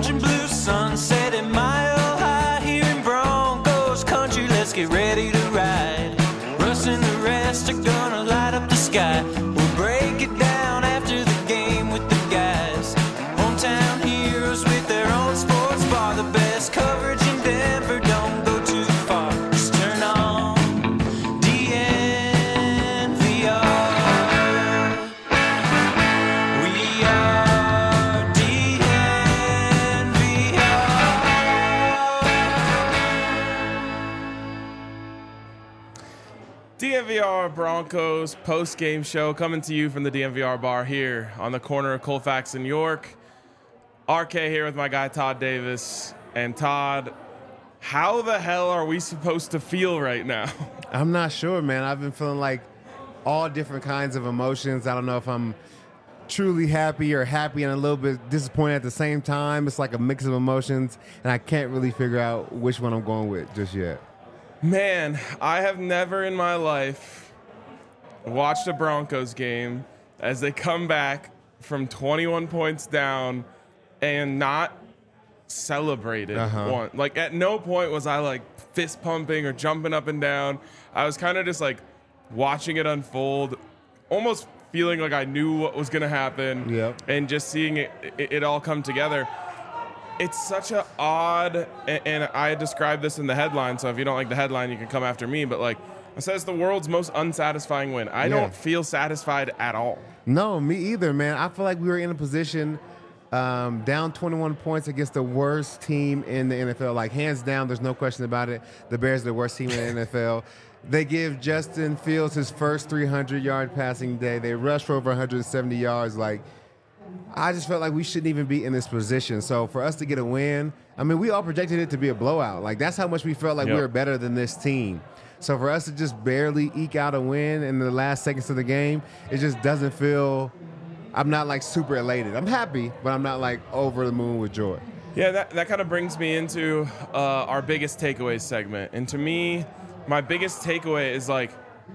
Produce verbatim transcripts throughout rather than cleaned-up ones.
orange and blue sunset at Mile High here in Broncos country. Let's get ready to ride. Russ and the rest are gonna light up the sky. We'll break it down after the game with the guys. Hometown heroes with their own sports bar. The best coverage in Denver, don't go too far. Just turn on D N V R. We are D N V R. D N V R Broncos post-game show coming to you from the D N V R bar here on the corner of Colfax and York. R K here with my guy Todd Davis. And Todd, how the hell are we supposed to feel right now? I'm not sure, man. I've been feeling like all different kinds of emotions. I don't know if I'm truly happy or happy and a little bit disappointed at the same time. It's like a mix of emotions, and I can't really figure out which one I'm going with just yet. Man, I have never in my life watched a Broncos game as they come back from twenty-one points down and not celebrated Uh-huh. one. Like, at no point was I like fist pumping or jumping up and down. I was kind of just like watching it unfold, almost feeling like I knew what was going to happen. Yep. And just seeing it, it, it all come together. It's such a odd, and, and I described this in the headline, so if you don't like the headline, you can come after me, but like, it says the world's most unsatisfying win. I Yeah. don't feel satisfied at all. No, me either, man. I feel like we were in a position um, down twenty-one points against the worst team in the N F L. Like, hands down, there's no question about it. The Bears are the worst team in the N F L. They give Justin Fields his first three hundred yard passing day. They rush for over one hundred seventy yards. Like, I just felt like we shouldn't even be in this position. So for us to get a win, I mean, we all projected it to be a blowout. Like, that's how much we felt like Yep. we were better than this team. So for us to just barely eke out a win in the last seconds of the game, it just doesn't feel – I'm not, like, super elated. I'm happy, but I'm not, like, over the moon with joy. Yeah, that, that kind of brings me into uh, our biggest takeaways segment. And to me, my biggest takeaway is like,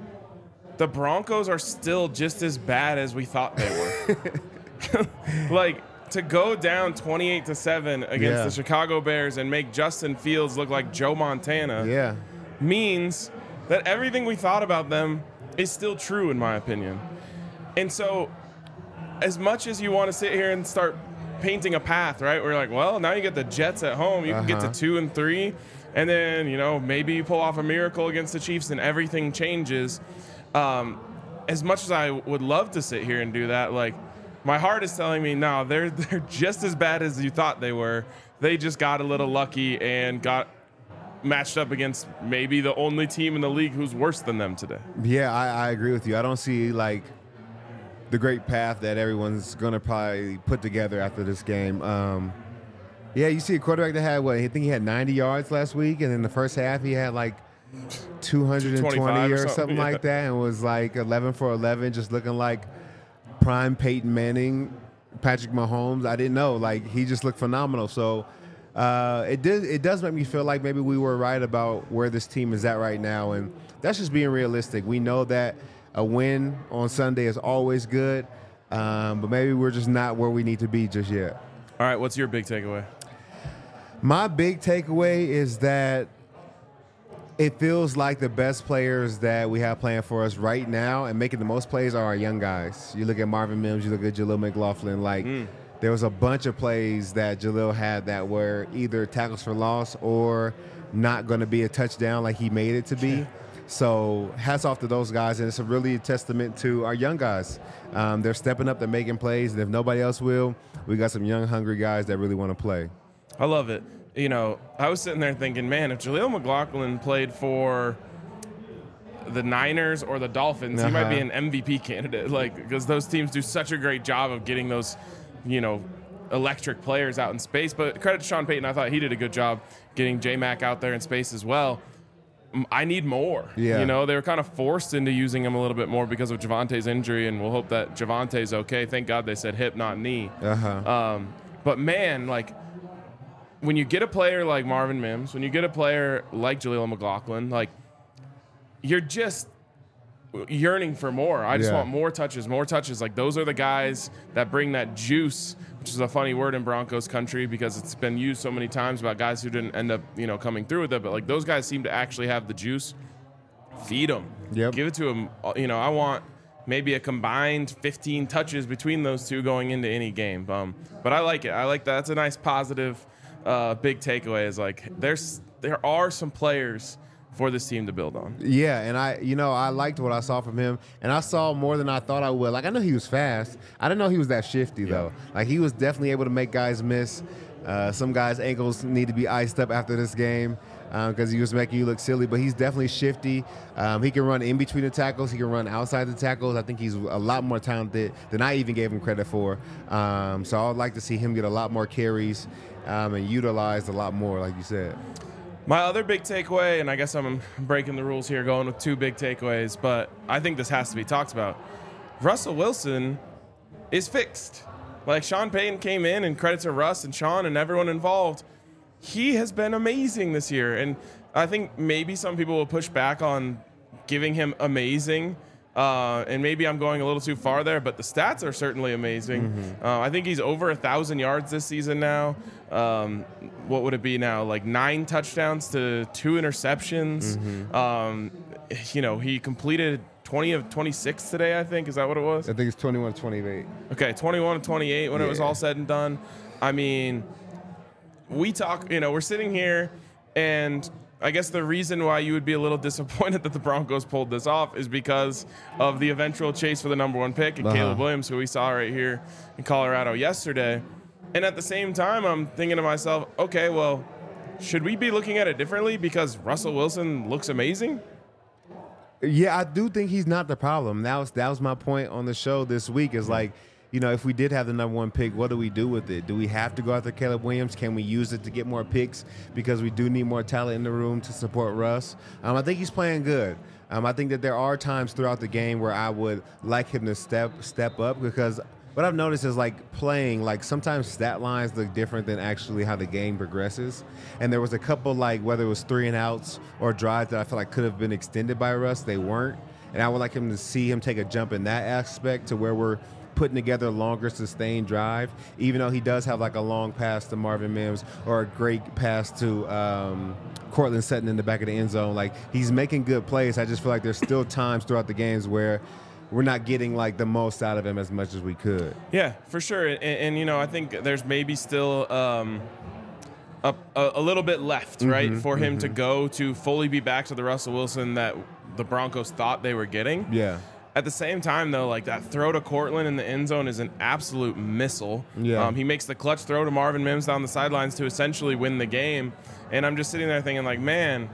the Broncos are still just as bad as we thought they were. Like, to go down twenty-eight to seven against Yeah. the Chicago Bears and make Justin Fields look like Joe Montana Yeah. means that everything we thought about them is still true, in my opinion. And so, as much as you want to sit here and start painting a path, right? We're like, well, now you get the Jets at home. You can get Uh-huh. to two and three, and then, you know, maybe you pull off a miracle against the Chiefs and everything changes. Um, as much as I would love to sit here and do that, like, my heart is telling me, no, they're they're just as bad as you thought they were. They just got a little lucky and got matched up against maybe the only team in the league who's worse than them today. Yeah, I, I agree with you. I don't see, like, the great path that everyone's going to probably put together after this game. Um, yeah, you see a quarterback that had, what, I think he had ninety yards last week, and in the first half he had, like, two hundred twenty twenty-five or or something, something, yeah. like that, and was, like, eleven for eleven, just looking like prime Peyton Manning, Patrick Mahomes. I didn't know. Like, he just looked phenomenal. So uh, it did. It does make me feel like maybe we were right about where this team is at right now, and that's just being realistic. We know that a win on Sunday is always good, um, but maybe we're just not where we need to be just yet. All right, what's your big takeaway? My big takeaway is that it feels like the best players that we have playing for us right now and making the most plays are our young guys. You look at Marvin Mims, you look at Jaleel McLaughlin. Like, mm. there was a bunch of plays that Jaleel had that were either tackles for loss or not going to be a touchdown like he made it to be. So hats off to those guys, and it's a really a testament to our young guys. Um, they're stepping up, they're making plays, and if nobody else will, we got some young, hungry guys that really want to play. I love it. You know, I was sitting there thinking, man, if Jaleel McLaughlin played for the Niners or the Dolphins, uh-huh. he might be an M V P candidate, like, because those teams do such a great job of getting those, you know, electric players out in space. But credit to Sean Payton, I thought he did a good job getting J-Mac out there in space as well. I need more. Yeah. You know, they were kind of forced into using him a little bit more because of Javante's injury, and we'll hope that Javante's okay. Thank God they said hip, not knee. Uh-huh. Um, but, man, like, when you get a player like Marvin Mims, when you get a player like Jaleel McLaughlin, like, you're just yearning for more. I just Yeah. want more touches, more touches. Like those are the guys that bring that juice, which is a funny word in Broncos country because it's been used so many times about guys who didn't end up, you know, coming through with it. But like those guys seem to actually have the juice. Feed them. Yep. Give it to them. You know, I want maybe a combined fifteen touches between those two going into any game. Um, but I like it. I like that. That's a nice positive, uh, big takeaway. Is like there's there are some players for this team to build on. Yeah, and I, you know, I liked what I saw from him, and I saw more than I thought I would. Like I know he was fast. I didn't know he was that shifty though. Like he was definitely able to make guys miss. Uh, some guys' ankles need to be iced up after this game because um, he was making you look silly. But he's definitely shifty. Um, he can run in between the tackles. He can run outside the tackles. I think he's a lot more talented than I even gave him credit for. Um, so I would like to see him get a lot more carries um, and utilized a lot more, like you said. My other big takeaway, and I guess I'm breaking the rules here going with two big takeaways, but I think this has to be talked about. Russell Wilson is fixed. Like Sean Payton came in, and credit to Russ and Sean and everyone involved. He has been amazing this year, and I think maybe some people will push back on giving him amazing, uh, and maybe I'm going a little too far there, but the stats are certainly amazing. Mm-hmm. Uh, I think he's over a thousand yards this season now. Um, what would it be now? Like nine touchdowns to two interceptions. Mm-hmm. Um, you know, he completed twenty of twenty-six today, I think. Is that what it was? I think it's twenty-one twenty-eight. Okay, twenty-one of twenty-eight when yeah. it was all said and done. I mean, we talk, you know, we're sitting here, and I guess the reason why you would be a little disappointed that the Broncos pulled this off is because of the eventual chase for the number one pick and uh-huh. Caleb Williams, who we saw right here in Colorado yesterday. And at the same time, I'm thinking to myself, okay, well, should we be looking at it differently because Russell Wilson looks amazing? Yeah, I do think he's not the problem. That was that was my point on the show this week is like, you know, if we did have the number one pick, what do we do with it? Do we have to go after Caleb Williams? Can we use it to get more picks because we do need more talent in the room to support Russ? Um, I think he's playing good. Um, I think that there are times throughout the game where I would like him to step step up because what I've noticed is like playing, like sometimes stat lines look different than actually how the game progresses. And there was a couple like whether it was three and outs or drives that I feel like could have been extended by Russ. They weren't. And I would like him to see him take a jump in that aspect to where we're putting together a longer sustained drive, even though he does have like a long pass to Marvin Mims or a great pass to um, Cortland Sutton in the back of the end zone. Like he's making good plays. I just feel like there's still times throughout the games where we're not getting like the most out of him as much as we could. Yeah, for sure. And, and you know, I think there's maybe still um, a, a, a little bit left, mm-hmm, right, for him mm-hmm. to go to fully be back to the Russell Wilson that the Broncos thought they were getting. Yeah. At the same time, though, like that throw to Cortland in the end zone is an absolute missile. Yeah. Um, he makes the clutch throw to Marvin Mims down the sidelines to essentially win the game. And I'm just sitting there thinking, like, man,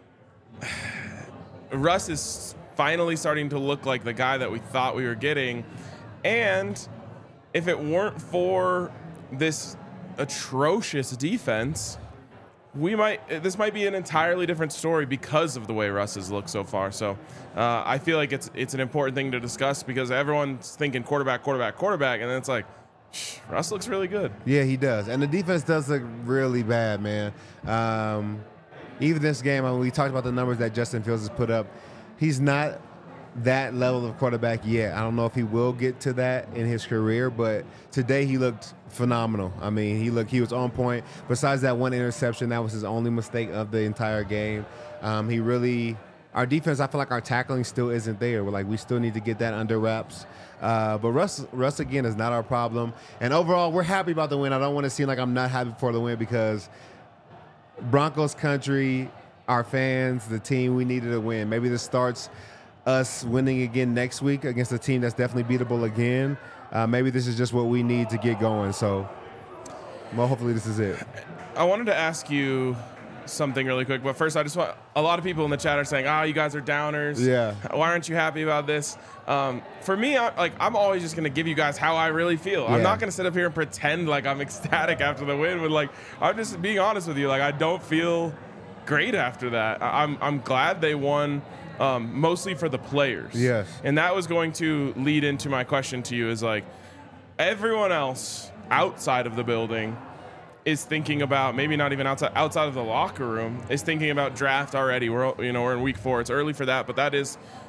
Russ is finally starting to look like the guy that we thought we were getting. And if it weren't for this atrocious defense, we might this might be an entirely different story because of the way Russ has looked so far. So uh, I feel like it's it's an important thing to discuss because everyone's thinking quarterback, quarterback, quarterback, and then it's like, Russ looks really good. Yeah, he does. And the defense does look really bad, man. Um, even this game, I mean, we talked about the numbers that Justin Fields has put up. He's not that level of quarterback yet. I don't know if he will get to that in his career, but today he looked phenomenal. I mean, he looked he was on point. Besides that one interception, that was his only mistake of the entire game. Um, he really our defense, I feel like our tackling still isn't there. We're like we still need to get that under wraps. Uh, but Russ, Russ again is not our problem. And overall, we're happy about the win. I don't want to seem like I'm not happy for the win because Broncos country, our fans, the team, we needed a win. Maybe this starts us winning again next week against a team that's definitely beatable again. Uh, maybe this is just what we need to get going. So, well, hopefully this is it. I wanted to ask you something really quick, but first I just want, a lot of people in the chat are saying, oh, you guys are downers. Yeah. Why aren't you happy about this? Um, for me, I, like I'm always just going to give you guys how I really feel. Yeah. I'm not going to sit up here and pretend like I'm ecstatic after the win, but like, I'm just being honest with you. Like, I don't feel great after that. I'm, I'm glad they won. Um, mostly for the players. Yes. And that was going to lead into my question to you is like, everyone else outside of the building is thinking about, maybe not even outside outside of the locker room, is thinking about draft already. We're, you know, we're in week four. It's early for that, but that is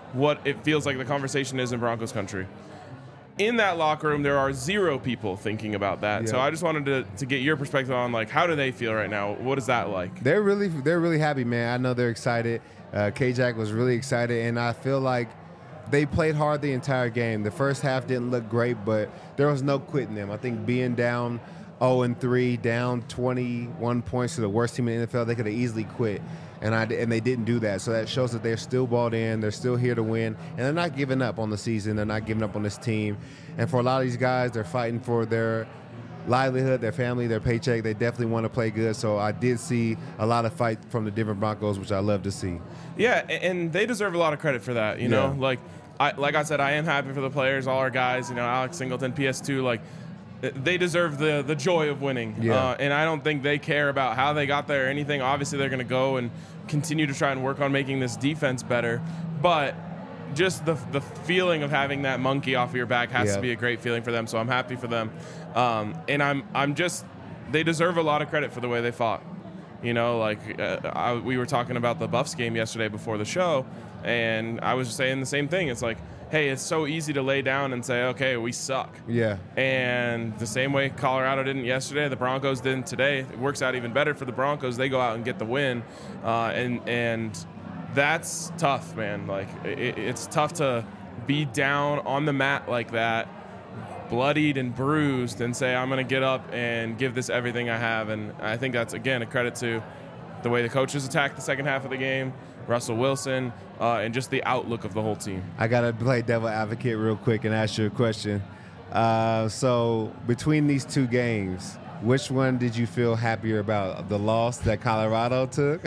what it feels like the conversation is in Broncos country. In that locker room, there are zero people thinking about that. Yeah. So I just wanted to, to get your perspective on, like, how do they feel right now? What is that like? They're really they're really happy, man. I know they're excited. Uh, K-Jack was really excited, and I feel like they played hard the entire game. The first half didn't look great, but there was no quitting them. I think being down oh and three, down twenty-one points to the worst team in the N F L, they could have easily quit. And I and they didn't do that. So that shows that they're still balled in. They're still here to win. And they're not giving up on the season. They're not giving up on this team. And for a lot of these guys, they're fighting for their livelihood, their family, their paycheck. They definitely want to play good. So I did see a lot of fight from the Denver Broncos, which I love to see. Yeah, and they deserve a lot of credit for that, you know? Yeah. Like I like I said, I am happy for the players, all our guys, you know, Alex Singleton, P S two, like they deserve the the joy of winning. Yeah. Uh, and I don't think they care about how they got there or anything. Obviously, they're going to go and continue to try and work on making this defense better. But just the the feeling of having that monkey off of your back has Yeah. to be a great feeling for them. So I'm happy for them. Um, and I'm I'm just they deserve a lot of credit for the way they fought. You know, like uh, I, we were talking about the Buffs game yesterday before the show, and I was saying the same thing. It's like, hey, it's so easy to lay down and say, okay, we suck. Yeah. And the same way Colorado didn't yesterday, the Broncos didn't today. It works out even better for the Broncos. They go out and get the win, uh, and and that's tough, man. Like it, it's tough to be down on the mat like that, bloodied and bruised, and say, I'm going to get up and give this everything I have. And I think that's, again, a credit to the way the coaches attacked the second half of the game, Russell Wilson, uh, and just the outlook of the whole team. I got to play devil advocate real quick and ask you a question. Uh, so between these two games, which one did you feel happier about? The loss that Colorado took?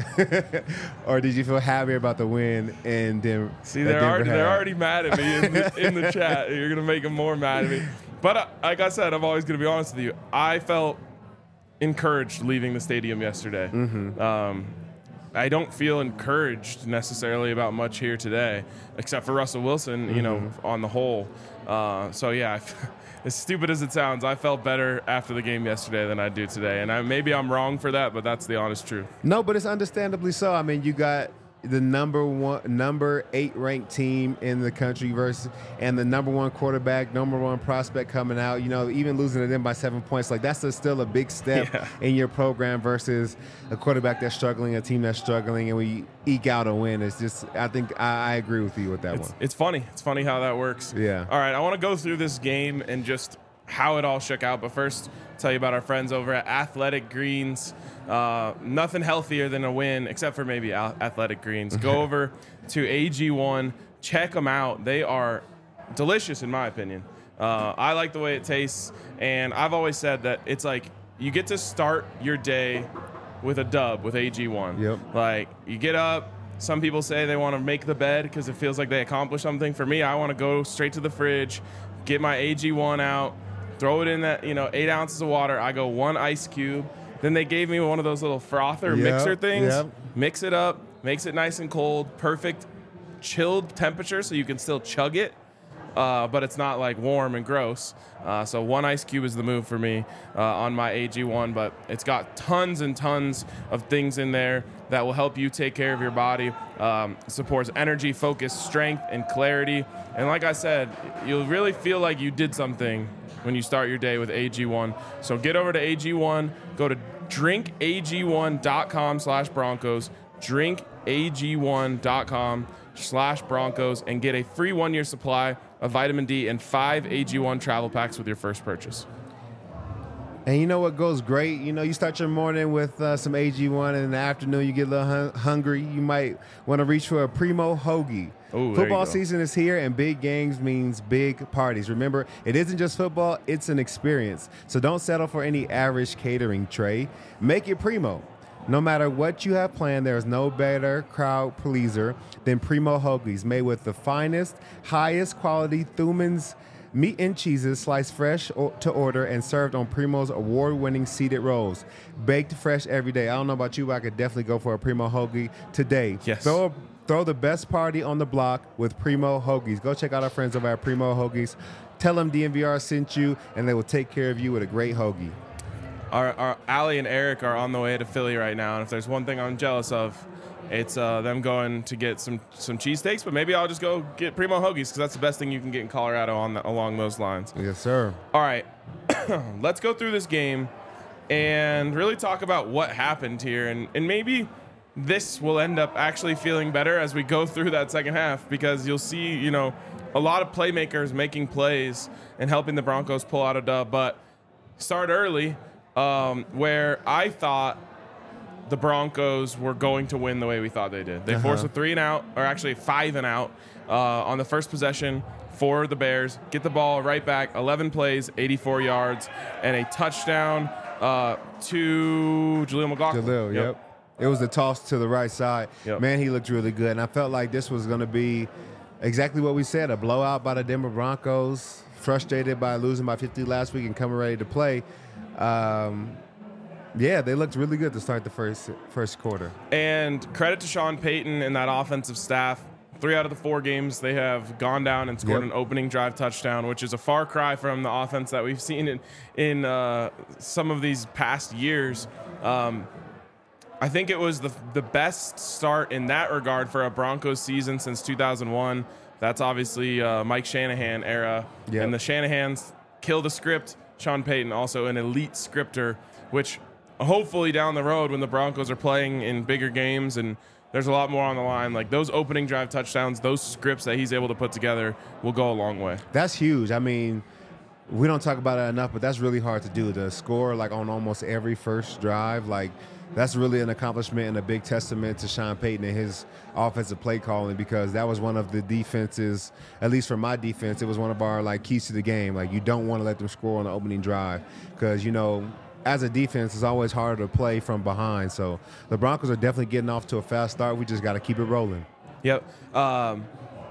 Or did you feel happier about the win in Denver? See, they're already, they're already mad at me in the, in the chat. You're going to make them more mad at me. But uh, like I said, I'm always going to be honest with you. I felt encouraged leaving the stadium yesterday. Mm-hmm. Um, I don't feel encouraged necessarily about much here today, except for Russell Wilson, you Mm-hmm. know, on the whole. Uh, so, yeah, as stupid as it sounds, I felt better after the game yesterday than I do today. And I, maybe I'm wrong for that, but that's the honest truth. No, but it's understandably so. I mean, you got the number one, number eight ranked team in the country versus, and the number one quarterback, number one prospect coming out. You know, even losing to them by seven points, like that's a, still a big step Yeah. in your program versus a quarterback that's struggling, a team that's struggling, and we eke out a win. It's just, I think I, I agree with you with that It's, one. it's funny. It's funny how that works. Yeah. All right, I want to go through this game and just how it all shook out. But first, tell you about our friends over at Athletic Greens. Uh, nothing healthier than a win, except for maybe Al- Athletic Greens. Go over to A G one. Check them out. They are delicious, in my opinion. Uh, I like the way it tastes. And I've always said that it's like you get to start your day with a dub with A G one. Yep. Like, you get up. Some people say they want to make the bed because it feels like they accomplished something. For me, I want to go straight to the fridge, get my A G one out, throw it in that, you know, eight ounces of water. I go one ice cube. Then they gave me one of those little frother Yep, mixer things. yep. Mix it up, makes it nice and cold, perfect chilled temperature so you can still chug it, uh, but it's not like warm and gross. Uh, so one ice cube is the move for me uh, on my A G one, but it's got tons and tons of things in there that will help you take care of your body. Um, supports energy, focus, strength, and clarity. And like I said, you'll really feel like you did something when you start your day with A G one. So get over to A G one, go to drink A G one dot com slash Broncos, drink A G one dot com slash Broncos, and get a free one-year supply of vitamin D and five A G one travel packs with your first purchase. And you know what goes great? You know, you start your morning with uh, some A G one, and in the afternoon you get a little hun- hungry. You might want to reach for a Primo Hoagie. Ooh, there you Football go. season is here, and big games means big parties. Remember, it isn't just football, it's an experience. So don't settle for any average catering tray. Make it Primo. No matter what you have planned, there is no better crowd pleaser than Primo Hoagies, made with the finest, highest quality Thumann's meat and cheeses, sliced fresh o- to order and served on Primo's award-winning seeded rolls. Baked fresh every day. I don't know about you, but I could definitely go for a Primo Hoagie today. Yes. Throw a Throw the best party on the block with Primo Hoagies. Go check out our friends over at Primo Hoagies. Tell them D N V R sent you, and they will take care of you with a great hoagie. Our, our Allie and Eric are on the way to Philly right now, and if there's one thing I'm jealous of, it's uh, them going to get some some cheesesteaks, but maybe I'll just go get Primo Hoagies because that's the best thing you can get in Colorado on the, along those lines. Yes, sir. All right, let's go through this game and really talk about what happened here, and, and maybe this will end up actually feeling better as we go through that second half because you'll see, you know, a lot of playmakers making plays and helping the Broncos pull out a dub, but start early um, where I thought the Broncos were going to win the way we thought they did. They uh-huh. forced a three and out, or actually five and out uh, on the first possession for the Bears, get the ball right back, eleven plays, eighty-four yards, and a touchdown uh, to Jaleel McLaughlin. Jaleel, yep. yep. It was a toss to the right side. Yep. Man, he looked really good. And I felt like this was going to be exactly what we said, a blowout by the Denver Broncos, frustrated by losing by fifty last week and coming ready to play. Um, yeah, they looked really good to start the first first quarter. And credit to Sean Payton and that offensive staff. Three out of the four games, they have gone down and scored yep. an opening drive touchdown, which is a far cry from the offense that we've seen in, in uh, some of these past years. Um, I think it was the the best start in that regard for a Broncos season since two thousand one. That's obviously uh, Mike Shanahan era. Yep. And the Shanahans kill the script. Sean Payton, also an elite scripter, which hopefully down the road when the Broncos are playing in bigger games and there's a lot more on the line, like those opening drive touchdowns, those scripts that he's able to put together will go a long way. That's huge. I mean, we don't talk about it enough, but that's really hard to do. To score like on almost every first drive, like that's really an accomplishment and a big testament to Sean Payton and his offensive play calling, because that was one of the defenses, at least for my defense, it was one of our like keys to the game. Like you don't want to let them score on the opening drive because, you know, as a defense, it's always harder to play from behind. So the Broncos are definitely getting off to a fast start. We just got to keep it rolling. Yep. Um,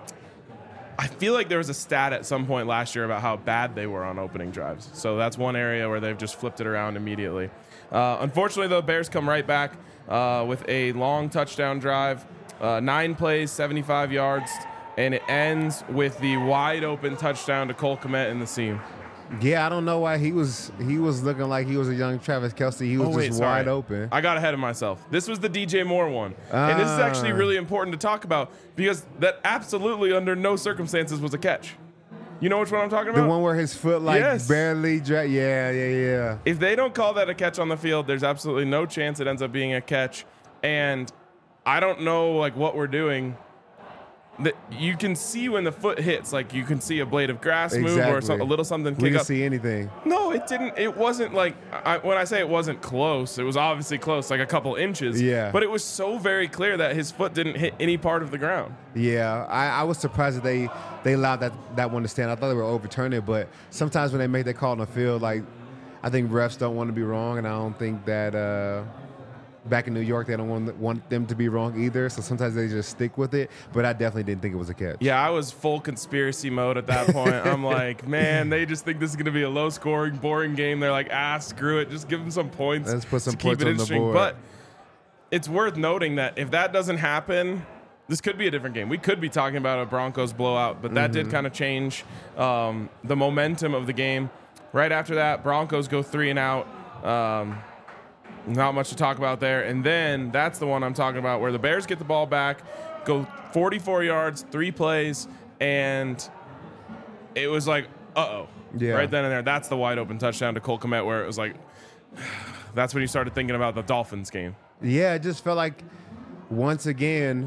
I feel like there was a stat at some point last year about how bad they were on opening drives. So that's one area where they've just flipped it around immediately. Uh, unfortunately, the Bears come right back uh, with a long touchdown drive, uh, nine plays, seventy-five yards, and it ends with the wide open touchdown to Cole Kmet in the seam. Yeah, I don't know why he was he was looking like he was a young Travis Kelce. He was oh, wait, just sorry. wide open. I got ahead of myself. This was the D J Moore one. Ah. And this is actually really important to talk about because that absolutely under no circumstances was a catch. You know which one I'm talking about? The one where his foot like yes. barely dra- yeah, yeah, yeah. If they don't call that a catch on the field, there's absolutely no chance it ends up being a catch. And I don't know like what we're doing. That you can see when the foot hits, like you can see a blade of grass exactly. move or some, a little something kick we didn't up. see anything. No, it didn't. It wasn't like I, when I say it wasn't close, it was obviously close, like a couple inches. Yeah. But it was so very clear that his foot didn't hit any part of the ground. Yeah, I, I was surprised that they they allowed that that one to stand. I thought they were overturning it, but sometimes when they make that call on the field, like I think refs don't want to be wrong, and I don't think that. Uh, Back in New York, they don't want, want them to be wrong either, so sometimes they just stick with it. But I definitely didn't think it was a catch. Yeah, I was full conspiracy mode at that point. I'm like, man, they just think this is going to be a low-scoring, boring game. They're like, ah, screw it. Just give them some points. Let's put some to points keep it on the interesting. board. But it's worth noting that if that doesn't happen, this could be a different game. We could be talking about a Broncos blowout, but that mm-hmm. did kind of change um, the momentum of the game. Right after that, Broncos go three and out. Um, Not much to talk about there. And then that's the one I'm talking about where the Bears get the ball back, go forty-four yards, three plays, and it was like, uh-oh. Yeah. Right then and there. That's the wide open touchdown to Cole Kmet where it was like, that's when you started thinking about the Dolphins game. Yeah, it just felt like once again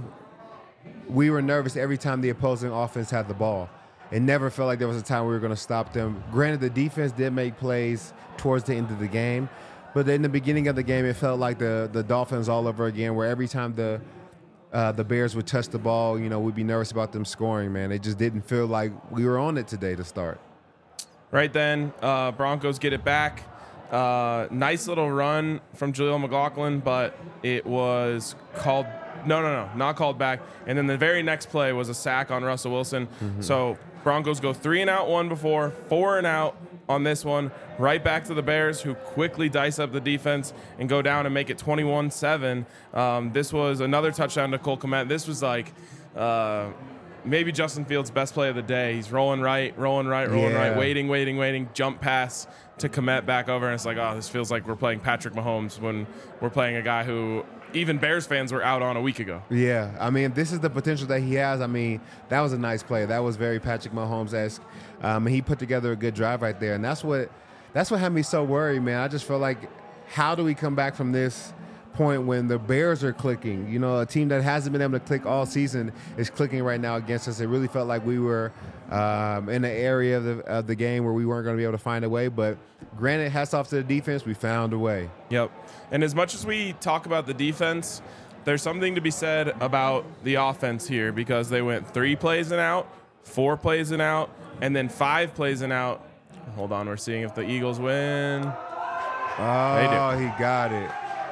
we were nervous every time the opposing offense had the ball. It never felt like there was a time we were going to stop them. Granted, the defense did make plays towards the end of the game, but in the beginning of the game, it felt like the, the Dolphins all over again, where every time the uh, the Bears would touch the ball, you know, we'd be nervous about them scoring, man. It just didn't feel like we were on it today to start. Right then, uh, Broncos get it back. Uh, nice little run from Jaleel McLaughlin, but it was called – no, no, no, not called back. And then the very next play was a sack on Russell Wilson. Mm-hmm. So Broncos go three and out one before, four and out on this one, right back to the Bears, who quickly dice up the defense and go down and make it twenty-one seven. Um, this was another touchdown to Cole Kmet. This was like uh, maybe Justin Fields' best play of the day. He's rolling right, rolling right, rolling yeah. right, waiting, waiting, waiting, jump pass to Kmet back over. And it's like, oh, this feels like we're playing Patrick Mahomes when we're playing a guy who even Bears fans were out on a week ago. Yeah, I mean, this is the potential that he has. I mean, that was a nice play. That was very Patrick Mahomes-esque. Um, he put together a good drive right there, and that's what that's what had me so worried, man. I just feel like, how do we come back from this point when the Bears are clicking? You know, a team that hasn't been able to click all season is clicking right now against us. It really felt like we were um, in an area of the, of the game where we weren't going to be able to find a way. But granted, hats off to the defense. We found a way. Yep. And as much as we talk about the defense, there's something to be said about the offense here, because they went three plays and out, four plays and out, and then five plays and out. Hold on, we're seeing if the Eagles win. Oh, he got it.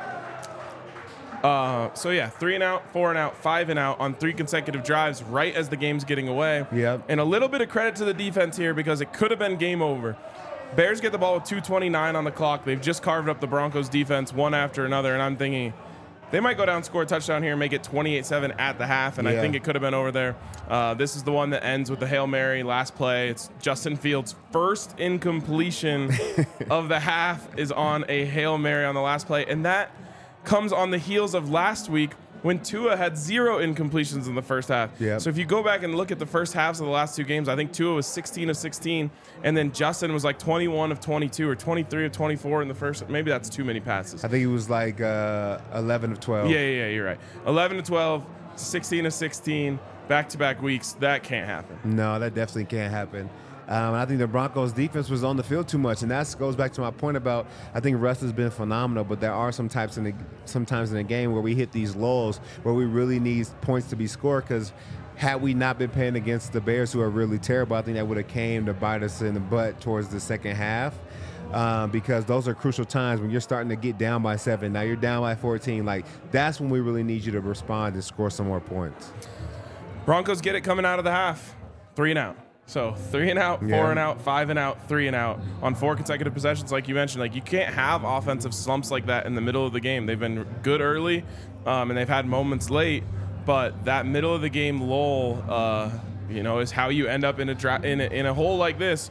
Uh, so, yeah, three and out, four and out, five and out on three consecutive drives right as the game's getting away. Yep. And a little bit of credit to the defense here, because it could have been game over. Bears get the ball with two twenty-nine on the clock. They've just carved up the Broncos defense one after another, and I'm thinking they might go down, score a touchdown here, and make it twenty-eight seven at the half, and Yeah. I think it could have been over there. Uh, this is the one that ends with the Hail Mary last play. It's Justin Fields' first incompletion of the half is on a Hail Mary on the last play, and that comes on the heels of last week when Tua had zero incompletions in the first half. Yep. So if you go back and look at the first halves of the last two games, I think Tua was sixteen of sixteen, and then Justin was like twenty-one of twenty-two or twenty-three of twenty-four in the first. Maybe that's too many passes. I think he was like uh, eleven of twelve. Yeah, yeah, yeah, you're right. eleven to twelve, sixteen of sixteen, back-to-back weeks. That can't happen. No, that definitely can't happen. Um, I think the Broncos defense was on the field too much, and that goes back to my point about I think Russ has been phenomenal, but there are some types in the sometimes in the game where we hit these lulls where we really need points to be scored, because had we not been playing against the Bears, who are really terrible, I think that would have came to bite us in the butt towards the second half. Um, because those are crucial times when you're starting to get down by seven. Now you're down by fourteen. Like, that's when we really need you to respond and score some more points. Broncos get it coming out of the half. Three and out. So three and out, four Yeah. and out, five and out, three and out on four consecutive possessions. Like you mentioned, like you can't have offensive slumps like that in the middle of the game. They've been good early, um, and they've had moments late, but that middle of the game lull, uh, you know, is how you end up in a, dra- in a in a hole like this.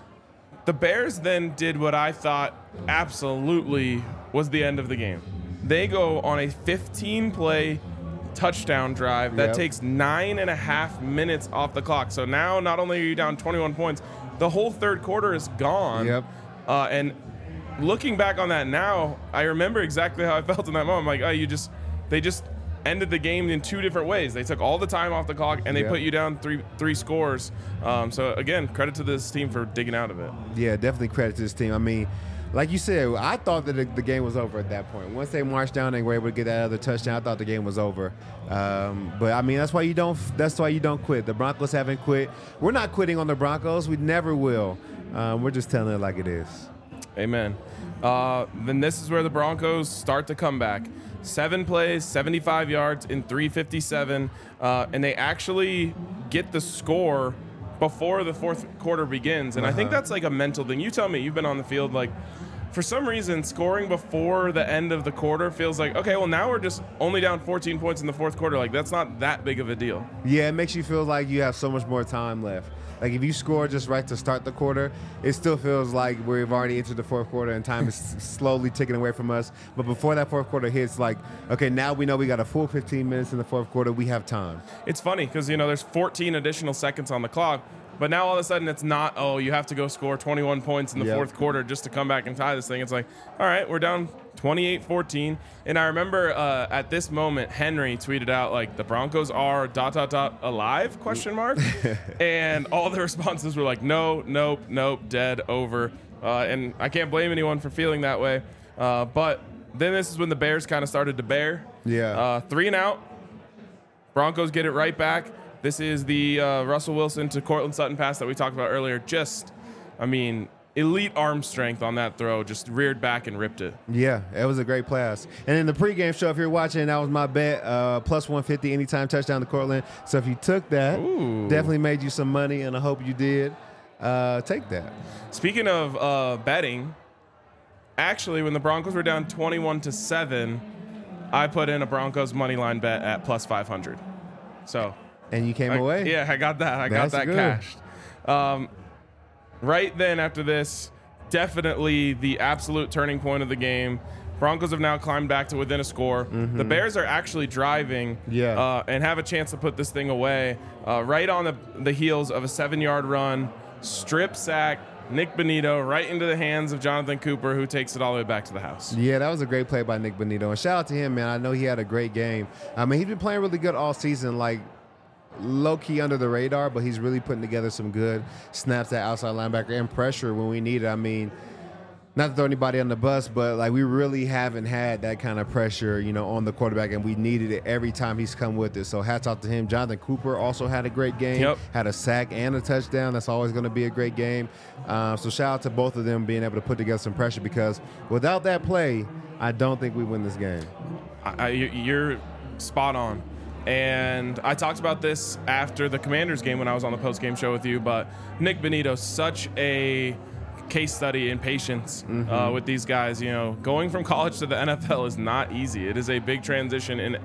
The Bears then did what I thought absolutely was the end of the game. They go on a fifteen-play touchdown drive that Yep. takes nine and a half minutes off the clock. So now not only are you down twenty-one points, the whole third quarter is gone. Yep. Uh, and looking back on that now, I remember exactly how I felt in that moment. I'm like, oh, you just, they just ended the game in two different ways. They took all the time off the clock and they Yep. put you down three three scores. Um, so again, credit to this team for digging out of it. Yeah, definitely credit to this team. I mean, like you said, I thought that the, the game was over at that point. Once they marched down and were able to get that other touchdown, I thought the game was over. Um, but I mean, that's why you don't. That's why you don't quit. The Broncos haven't quit. We're not quitting on the Broncos. We never will. Um, we're just telling it like it is. Amen. Uh, then this is where the Broncos start to come back. Seven plays, seventy-five yards in three fifty-seven, uh, and they actually get the score before the fourth quarter begins. And I think that's like a mental thing. You tell me, you've been on the field. Like, for some reason, scoring before the end of the quarter feels like, okay, well, now we're just only down fourteen points in the fourth quarter. Like, that's not that big of a deal. Yeah, it makes you feel like you have so much more time left. Like, if you score just right to start the quarter, it still feels like we've already entered the fourth quarter and time is slowly ticking away from us. But before that fourth quarter hits, like, okay, now we know we got a full fifteen minutes in the fourth quarter. We have time. It's funny because, you know, there's fourteen additional seconds on the clock, but now all of a sudden it's not, oh, you have to go score twenty-one points in the Yep. fourth quarter just to come back and tie this thing. It's like, all right, we're down twenty-eight fourteen. And I remember uh, at this moment, Henry tweeted out, like, the Broncos are dot, dot, dot alive, question mark. And all the responses were like, no, nope, nope, dead, over. Uh, and I can't blame anyone for feeling that way. Uh, but then this is when the Bears kind of started to bear. Yeah. Uh, three and out. Broncos get it right back. This is the uh, Russell Wilson to Cortland Sutton pass that we talked about earlier. Just, I mean, elite arm strength on that throw. Just reared back and ripped it. Yeah, it was a great pass. And in the pregame show, if you're watching, that was my bet, uh, plus one fifty anytime touchdown to Cortland. So if you took that, Ooh. definitely made you some money, and I hope you did. Uh, take that. Speaking of uh, betting, actually, when the Broncos were down twenty-one to seven, I put in a Broncos money line bet at plus five hundred. So, And you came I- away? yeah, I got that. I That's got that good. cashed. Um, right then after this, definitely the absolute turning point of the game. Broncos have now climbed back to within a score. Mm-hmm. The Bears are actually driving yeah. uh, and have a chance to put this thing away uh, right on the, the heels of a seven-yard run, strip sack, Nick Bonitto right into the hands of Jonathan Cooper, who takes it all the way back to the house. Yeah, that was a great play by Nick Bonitto. And shout out to him, man. I know he had a great game. I mean, he's been playing really good all season, like low-key under the radar, but he's really putting together some good snaps at outside linebacker and pressure when we need it. I mean, not to throw anybody on the bus, but like we really haven't had that kind of pressure, you know, on the quarterback, and we needed it every time he's come with it. So hats off to him. Jonathan Cooper also had a great game, yep. had a sack and a touchdown. That's always going to be a great game. Uh, so shout out to both of them being able to put together some pressure, because without that play, I don't think we win this game. I, you're spot on. And I talked about this after the Commanders game when I was on the post-game show with you, but Nick Bonitto, such a case study in patience mm-hmm. uh, with these guys. You know, going from college to the N F L is not easy. It is a big transition, and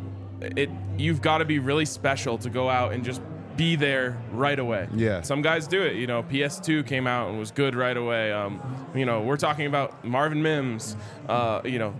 it you've got to be really special to go out and just be there right away. Yeah. Some guys do it. You know, P S two came out and was good right away. Um, you know, we're talking about Marvin Mims. Uh, you know,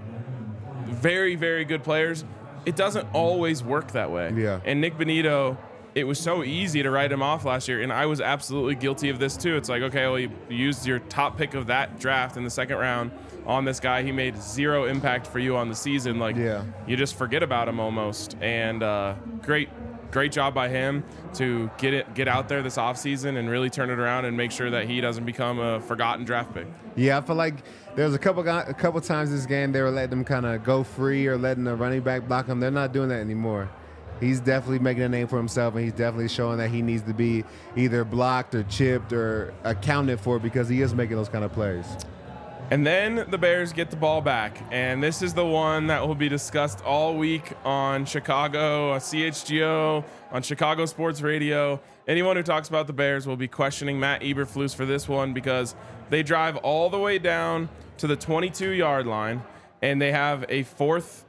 very, very good players. It doesn't always work that way. Yeah. And Nick Bonitto, it was so easy to write him off last year, and I was absolutely guilty of this too. It's like, okay, well, you used your top pick of that draft in the second round on this guy. He made zero impact for you on the season. Like, yeah. you just forget about him almost. And uh, great, great job by him to get it, get out there this offseason and really turn it around and make sure that he doesn't become a forgotten draft pick. Yeah, I feel like there was a couple a couple times this game they were letting them kind of go free or letting the running back block him. They're not doing that anymore. He's definitely making a name for himself, and he's definitely showing that he needs to be either blocked or chipped or accounted for, because he is making those kind of plays. And then the Bears get the ball back, and this is the one that will be discussed all week on Chicago, C H G O, on Chicago Sports Radio. Anyone who talks about the Bears will be questioning Matt Eberflus for this one, because they drive all the way down to the twenty-two-yard line, and they have a fourth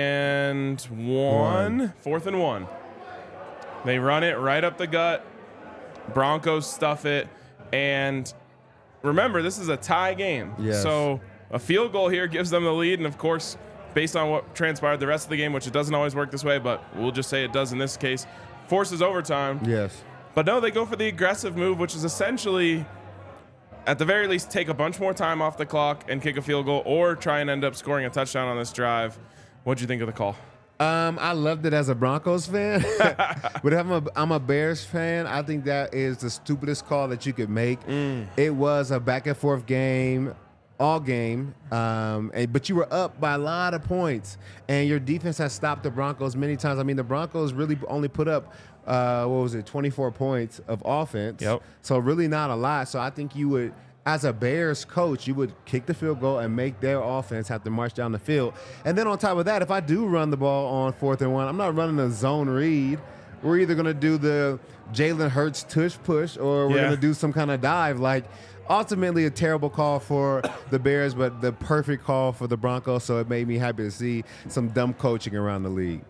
and one, one, fourth and one. They run it right up the gut. Broncos stuff it, and remember, this is a tie game. Yes. So a field goal here gives them the lead, and of course, based on what transpired the rest of the game, which it doesn't always work this way, but we'll just say it does in this case, forces overtime. Yes. But no, they go for the aggressive move, which is essentially, at the very least, take a bunch more time off the clock and kick a field goal, or try and end up scoring a touchdown on this drive. What'd you think of the call? Um, I loved it as a Broncos fan, but I'm a I'm a Bears fan. I think that is the stupidest call that you could make. Mm. It was a back and forth game, all game, um, and, but you were up by a lot of points, and your defense has stopped the Broncos many times. I mean, the Broncos really only put up uh, what was it, twenty-four points of offense. Yep. So really not a lot. So I think you would, as a Bears coach, you would kick the field goal and make their offense have to march down the field. And then on top of that, if I do run the ball on fourth and one, I'm not running a zone read. We're either going to do the Jalen Hurts tush push, or we're yeah. going to do some kind of dive. Like, ultimately a terrible call for the Bears, but the perfect call for the Broncos. So it made me happy to see some dumb coaching around the league.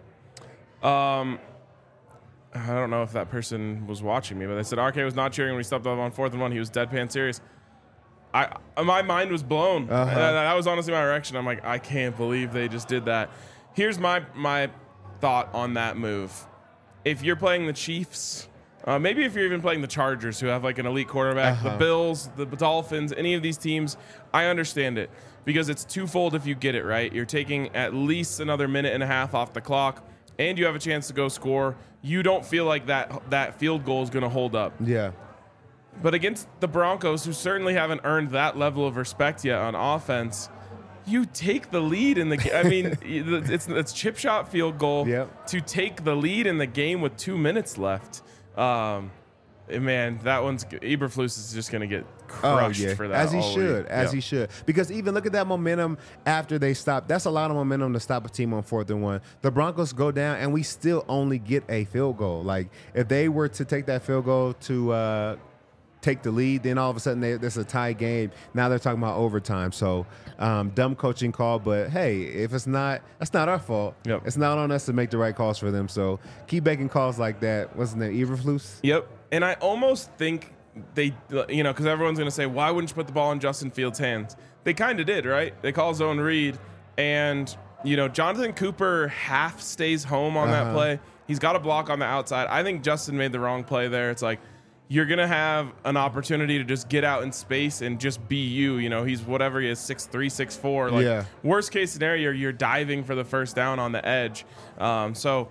Um, I don't know if that person was watching me, but they said R K was not cheering when he stepped up on fourth and one. He was deadpan serious. I my mind was blown. Uh-huh. That, that was honestly my reaction. I'm like, I can't believe they just did that. Here's my my thought on that move. If you're playing the Chiefs, uh, maybe if you're even playing the Chargers, who have like an elite quarterback, Uh-huh. the Bills, the Dolphins, any of these teams, I understand it, because it's twofold if you get it right. You're taking at least another minute and a half off the clock, and you have a chance to go score. You don't feel like that that field goal is going to hold up. Yeah. But against the Broncos, who certainly haven't earned that level of respect yet on offense, you take the lead in the game. I mean, it's it's chip shot field goal Yep. to take the lead in the game with two minutes left. Um, man, that one's Eberflus is just going to get crushed oh, yeah. for that. As he all should, week. as Yep. he should. Because even look at that momentum after they stopped. That's a lot of momentum to stop a team on fourth and one. The Broncos go down, and we still only get a field goal. Like, if they were to take that field goal to uh, take the lead, then all of a sudden they, there's a tie game. Now they're talking about overtime. So um, dumb coaching call, but hey, if it's not, that's not our fault. Yep. It's not on us to make the right calls for them. So keep making calls like that. What's his name? Eberflus? Yep. And I almost think they, you know, because everyone's going to say, why wouldn't you put the ball in Justin Fields' hands? They kind of did, right? They call zone read, And, you know, Jonathan Cooper half stays home on Uh-huh. that play. He's got a block on the outside. I think Justin made the wrong play there. It's like, you're going to have an opportunity to just get out in space and just be you. You know, he's whatever he is, six three, six four. Like, Yeah. worst case scenario, you're diving for the first down on the edge. Um, so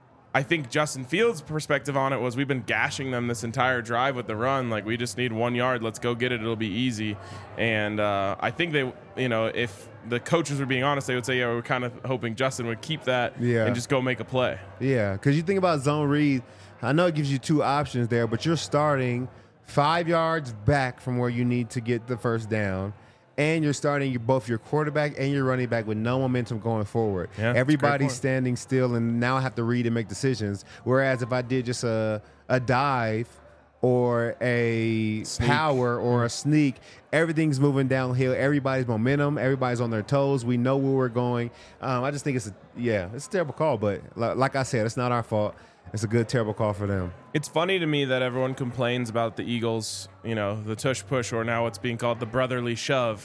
I think Justin Fields' perspective on it was, we've been gashing them this entire drive with the run. Like, we just need one yard. Let's go get it. It'll be easy. And uh, I think they, you know, if the coaches were being honest, they would say, yeah, we're kind of hoping Justin would keep that Yeah. and just go make a play. Yeah, because you think about zone read, I know it gives you two options there, but you're starting five yards back from where you need to get the first down, and you're starting your, both your quarterback and your running back with no momentum going forward. Yeah, that's a great Everybody's point. standing still, and now I have to read and make decisions. Whereas if I did just a, a dive or a Sneak. power or a sneak, everything's moving downhill. Everybody's momentum. Everybody's on their toes. We know where we're going. Um, I just think it's a, yeah, it's a terrible call, but li- like I said, it's not our fault. It's a good, terrible call for them. It's funny to me that everyone complains about the Eagles, you know, the tush push, or now what's being called the brotherly shove.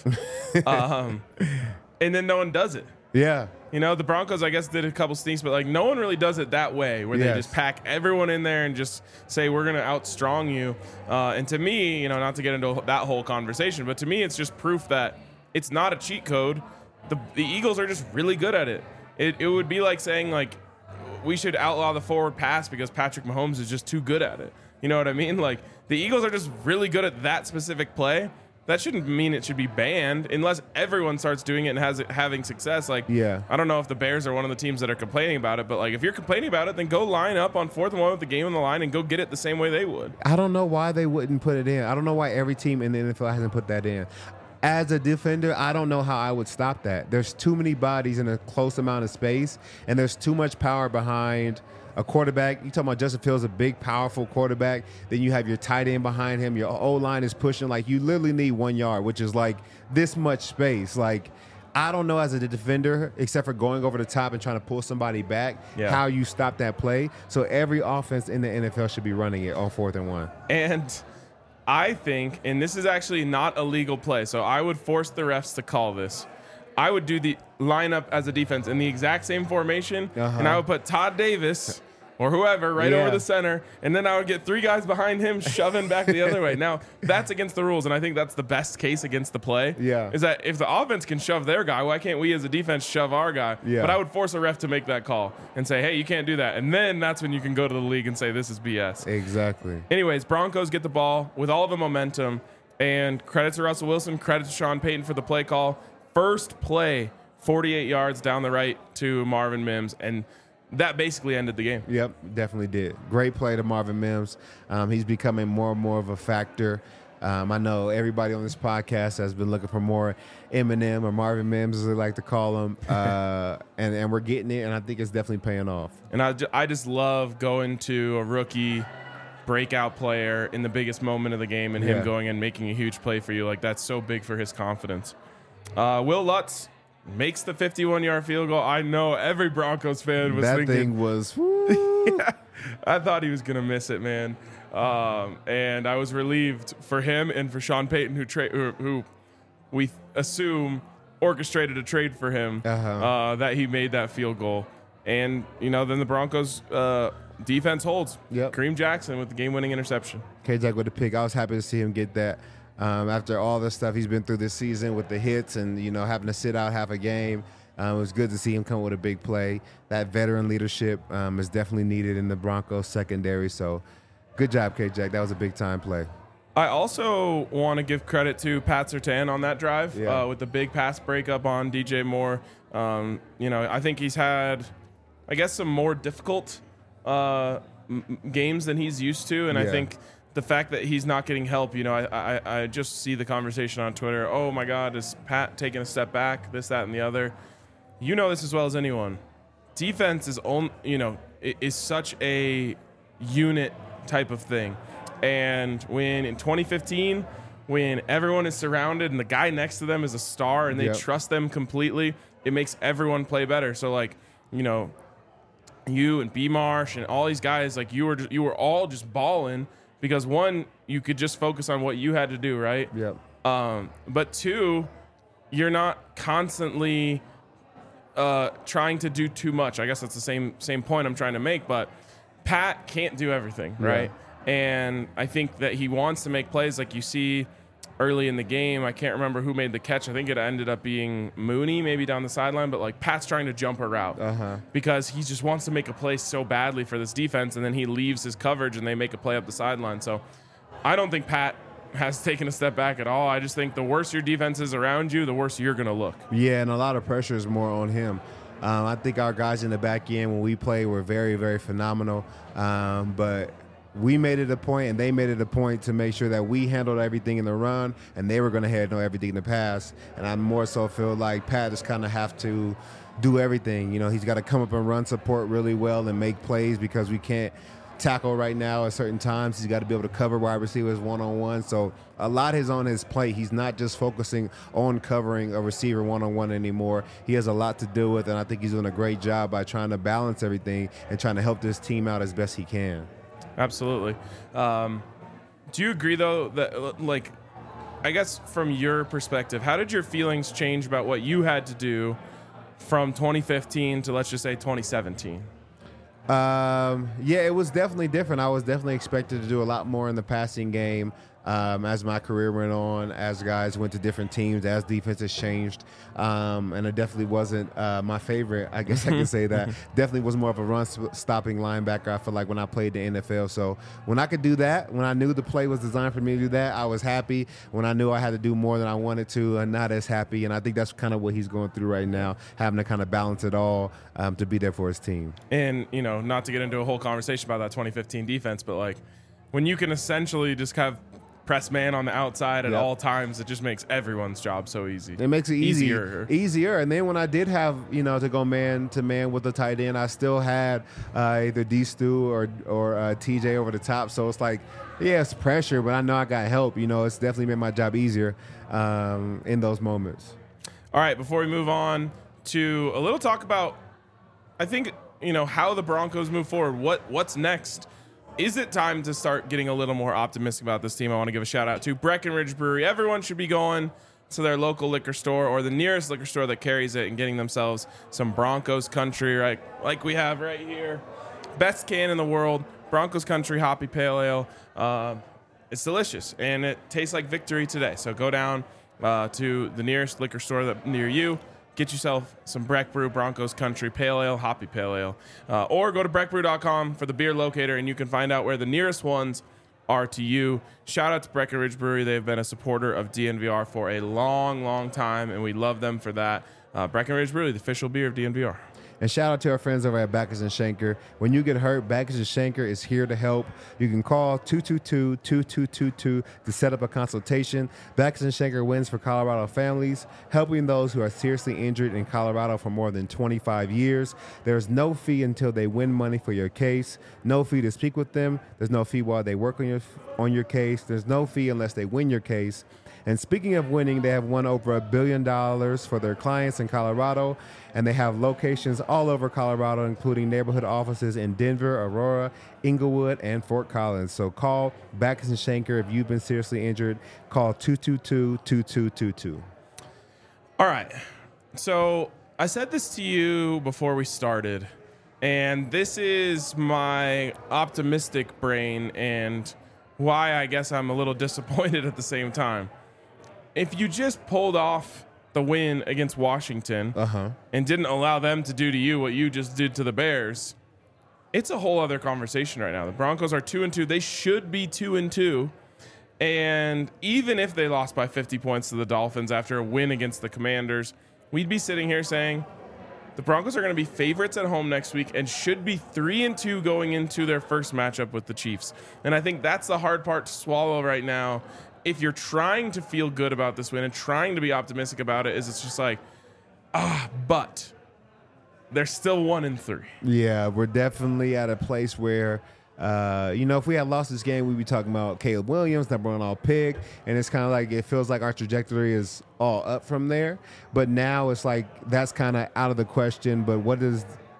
um, and then no one does it. Yeah. You know, the Broncos, I guess, did a couple sneaks, but like no one really does it that way, where they Yes. just pack everyone in there and just say, we're going to outstrong you. Uh, and to me, you know, not to get into that whole conversation, but to me, it's just proof that it's not a cheat code. The, the Eagles are just really good at it. It, it would be like saying, like, we should outlaw the forward pass because Patrick Mahomes is just too good at it. You know what I mean? Like, the Eagles are just really good at that specific play. That shouldn't mean it should be banned unless everyone starts doing it and has it having success. Like, Yeah. I don't know if the Bears are one of the teams that are complaining about it, but like, if you're complaining about it, then go line up on fourth and one with the game on the line and go get it the same way they would. I don't know why they wouldn't put it in. I don't know why every team in the N F L hasn't put that in. As a defender, I don't know how I would stop that. There's too many bodies in a close amount of space, and there's too much power behind a quarterback. You talking about Justin Fields, a big, powerful quarterback. Then you have your tight end behind him. Your O-line is pushing. Like, you literally need one yard, which is like this much space. Like, I don't know as a defender, except for going over the top and trying to pull somebody back, Yeah. how you stop that play. So every offense in the N F L should be running it on fourth and one. And I think, and this is actually not a legal play, so I would force the refs to call this. I would do the lineup as a defense in the exact same formation, Uh-huh. and I would put Todd Davis or whoever right Yeah. over the center, and then I would get three guys behind him shoving back the other way. Now, that's against the rules, and I think that's the best case against the play. Yeah. Is that if the offense can shove their guy, why can't we as a defense shove our guy? Yeah. But I would force a ref to make that call and say, hey, you can't do that. And then that's when you can go to the league and say, this is B S. Exactly. Anyways, Broncos get the ball with all the momentum, and credit to Russell Wilson, credit to Sean Payton for the play call. First play, forty-eight yards down the right to Marvin Mims, and that basically ended the game. Yep, definitely did. Great play to Marvin Mims. Um, he's becoming more and more of a factor. Um, I know everybody on this podcast has been looking for more Eminem or Marvin Mims, as they like to call him, uh, and, and we're getting it, and I think it's definitely paying off. And I, ju- I just love going to a rookie breakout player in the biggest moment of the game and him Yeah. going and making a huge play for you. Like, that's so big for his confidence. Uh, Will Lutz makes the fifty-one-yard field goal. I know every Broncos fan was That thinking, thing was, woo. I thought he was going to miss it, man. Um, and I was relieved for him and for Sean Payton, who, tra- who, who we assume orchestrated a trade for him, Uh-huh. uh, that he made that field goal. And, you know, then the Broncos uh, defense holds. Yep. Kareem Jackson with the game-winning interception. K-Jack with the pick. I was happy to see him get that. Um, after all the stuff he's been through this season with the hits and, you know, having to sit out half a game, um, it was good to see him come with a big play. That veteran leadership um, is definitely needed in the Broncos secondary. So good job, K-Jack. That was a big-time play. I also want to give credit to Pat Surtain on that drive Yeah. uh, with the big pass breakup on D J Moore. Um, you know, I think he's had, I guess, some more difficult uh, m- games than he's used to, and I Yeah. think the fact that he's not getting help, you know, I, I I just see the conversation on Twitter. Oh my God, is Pat taking a step back? This, that, and the other. You know this as well as anyone. Defense is on, you know, i- is such a unit type of thing. And when in twenty fifteen, when everyone is surrounded and the guy next to them is a star and they Yep. trust them completely, it makes everyone play better. So like, you know, you and B Marsh and all these guys, like you were you were all just balling because one, you could just focus on what you had to do, right? Yep. Um, but two, you're not constantly uh, trying to do too much. I guess that's the same same point I'm trying to make, but Pat can't do everything, right? Yeah. And I think that he wants to make plays like you see early in the game. I can't remember who made the catch. I think it ended up being Mooney, maybe down the sideline, but like Pat's trying to jump a route uh-huh. because he just wants to make a play so badly for this defense, and then he leaves his coverage and they make a play up the sideline. So I don't think Pat has taken a step back at all. I just think the worse your defense is around you, the worse you're going to look. Yeah, and a lot of pressure is more on him. Um, I think our guys in the back end when we play were very, very phenomenal. Um, but we made it a point, and they made it a point to make sure that we handled everything in the run, and they were going to handle everything in the pass. And I more so feel like Pat just kind of have to do everything. You know, he's got to come up and run support really well and make plays because we can't tackle right now at certain times. He's got to be able to cover wide receivers one-on-one. So a lot is on his plate. He's not just focusing on covering a receiver one-on-one anymore. He has a lot to do with, and I think he's doing a great job by trying to balance everything and trying to help this team out as best he can. Absolutely. Um, do you agree, though, that, like, I guess from your perspective, how did your feelings change about what you had to do from twenty fifteen to, let's just say, twenty seventeen? Um, yeah, it was definitely different. I was definitely expected to do a lot more in the passing game um, as my career went on, as guys went to different teams, as defenses changed. Um, and it definitely wasn't uh, my favorite, I guess I can say that. Definitely was more of a run-stopping linebacker, I feel like, when I played the N F L. So when I could do that, when I knew the play was designed for me to do that, I was happy. When I knew I had to do more than I wanted to, I'm not as happy. And I think that's kind of what he's going through right now, having to kind of balance it all um, to be there for his team. And, you know, not to get into a whole conversation about that twenty fifteen defense, but, like, when you can essentially just have press man on the outside at yep. all times, it just makes everyone's job so easy. It makes it easy, easier. Easier. And then when I did have, you know, to go man to man with the tight end, I still had uh, either D Stu or or uh, T J over the top. So it's like, yeah, it's pressure, but I know I got help. You know, it's definitely made my job easier um, in those moments. All right, before we move on to a little talk about, I think, you know, how the Broncos move forward. What what's next? Is it time to start getting a little more optimistic about this team? I want to give a shout out to Breckenridge Brewery. Everyone should be going to their local liquor store or the nearest liquor store that carries it and getting themselves some Broncos Country, right? Like we have right here. Best can in the world, Broncos Country Hoppy Pale Ale. Uh, it's delicious, and it tastes like victory today. So go down uh, to the nearest liquor store that near you. Get yourself some Breck Brew Broncos Country Pale Ale, Hoppy Pale Ale, uh, or go to breck brew dot com for the beer locator, and you can find out where the nearest ones are to you. Shout out to Breckenridge Brewery. They've been a supporter of D N V R for a long, long time, and we love them for that. Uh, Breckenridge Brewery, the official beer of D N V R. And shout out to our friends over at Backus and Schenker. When you get hurt, Backus and Schenker is here to help. You can call two two two, two two two two to set up a consultation. Backus and Schenker wins for Colorado families, helping those who are seriously injured in Colorado for more than twenty-five years. There's no fee until they win money for your case. No fee to speak with them. There's no fee while they work on your on your case. There's no fee unless they win your case. And speaking of winning, they have won over a billion dollars for their clients in Colorado, and they have locations all over Colorado, including neighborhood offices in Denver, Aurora, Inglewood, and Fort Collins. So call Backus and Schenker if you've been seriously injured. Call two two two, two two two two. All right. So I said this to you before we started, and this is my optimistic brain and why I guess I'm a little disappointed at the same time. If you just pulled off the win against Washington uh-huh. and didn't allow them to do to you what you just did to the Bears, it's a whole other conversation right now. The Broncos are two and two. They should be two and two. And even if they lost by fifty points to the Dolphins after a win against the Commanders, we'd be sitting here saying the Broncos are going to be favorites at home next week and should be three and two going into their first matchup with the Chiefs. And I think that's the hard part to swallow right now. If you're trying to feel good about this win and trying to be optimistic about it, is it's just like, ah, but they're still one and three. Yeah, we're definitely at a place where, uh, you know, if we had lost this game, we'd be talking about Caleb Williams, number one all pick, and it's kind of like it feels like our trajectory is all up from there. But now it's like that's kind of out of the question. But what does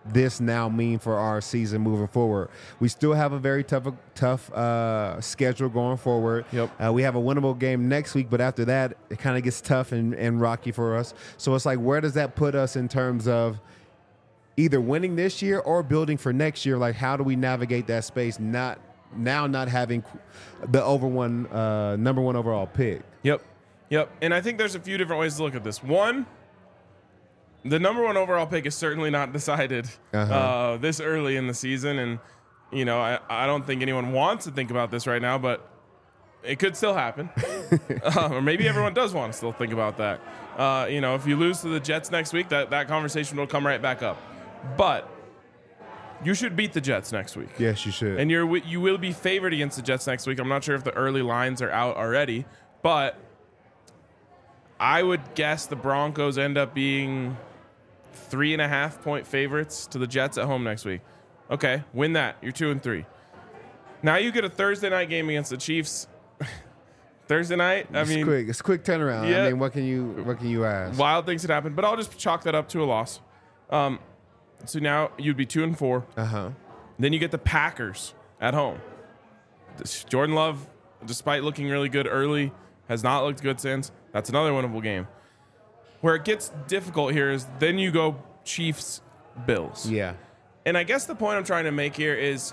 this now mean for our season moving forward? We still have a very tough, tough uh, schedule going forward. Yep. Uh, we have a winnable game next week, but after that, it kind of gets tough and, and rocky for us. So it's like, where does that put us in terms of either winning this year or building for next year? Like, how do we navigate that space? Not now, not having the over one, uh, number one overall pick. Yep. Yep. And I think there's a few different ways to look at this. One, the number one overall pick is certainly not decided Uh-huh. uh, this early in the season. And, you know, I, I don't think anyone wants to think about this right now, but it could still happen. uh, or maybe everyone does want to still think about that. Uh, you know, if you lose to the Jets next week, that, that conversation will come right back up. But you should beat the Jets next week. Yes, you should. And you're you will be favored against the Jets next week. I'm not sure if the early lines are out already, but I would guess the Broncos end up being three and a half point favorites to the Jets at home next week. Okay, win that. You're two and three. Now you get a Thursday night game against the Chiefs. Thursday night. I it's mean, quick. It's a quick turnaround. Yeah. I mean, what can you what can you ask? wild things could happen, but I'll just chalk that up to a loss. Um, so now you'd be two and four. Uh huh. Then you get the Packers at home. This- Jordan Love, despite looking really good early, has not looked good since. That's another winnable game. Where it gets difficult here is then you go Chiefs, Bills. Yeah. And I guess the point I'm trying to make here is,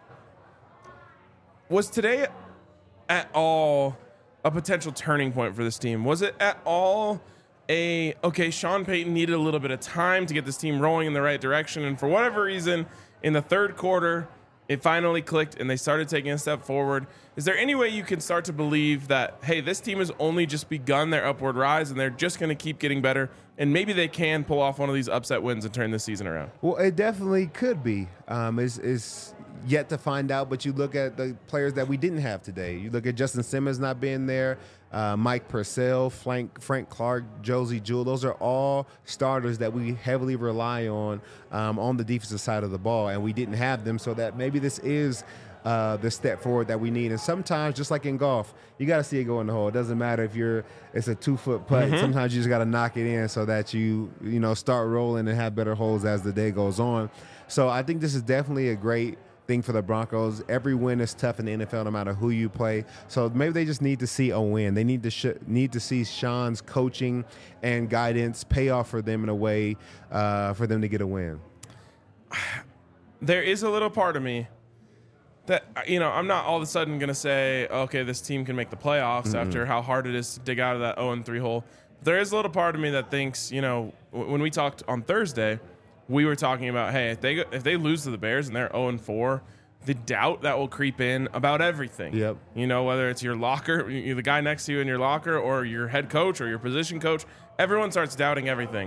was today at all a potential turning point for this team? Was it at all a, okay, Sean Payton needed a little bit of time to get this team rolling in the right direction, and for whatever reason, in the third quarter, it finally clicked and they started taking a step forward. Is there any way you can start to believe that, hey, this team has only just begun their upward rise and they're just going to keep getting better, and maybe they can pull off one of these upset wins and turn this season around? Well, it definitely could be. Um, it's, it's yet to find out, but you look at the players that we didn't have today. You look at Justin Simmons not being there, uh, Mike Purcell, Frank, Frank Clark, Josie Jewell. Those are all starters that we heavily rely on um, on the defensive side of the ball, and we didn't have them, so that maybe this is uh, the step forward that we need. And sometimes, just like in golf, you got to see it go in the hole. It doesn't matter if you're it's a two-foot putt. Mm-hmm. Sometimes you just got to knock it in so that you you know start rolling and have better holes as the day goes on. So I think this is definitely a great thing for the Broncos. Every win is tough in the N F L, no matter who you play. So maybe they just need to see a win. They need to sh- need to see Sean's coaching and guidance pay off for them in a way uh, for them to get a win. There is a little part of me that, you know, I'm not all of a sudden going to say, okay, this team can make the playoffs mm-hmm. after how hard it is to dig out of that oh and three hole. There is a little part of me that thinks, you know, w- when we talked on Thursday, we were talking about, hey, if they if they lose to the Bears and they're oh and four, the doubt that will creep in about everything. Yep. You know, whether it's your locker, the guy next to you in your locker, or your head coach or your position coach, everyone starts doubting everything.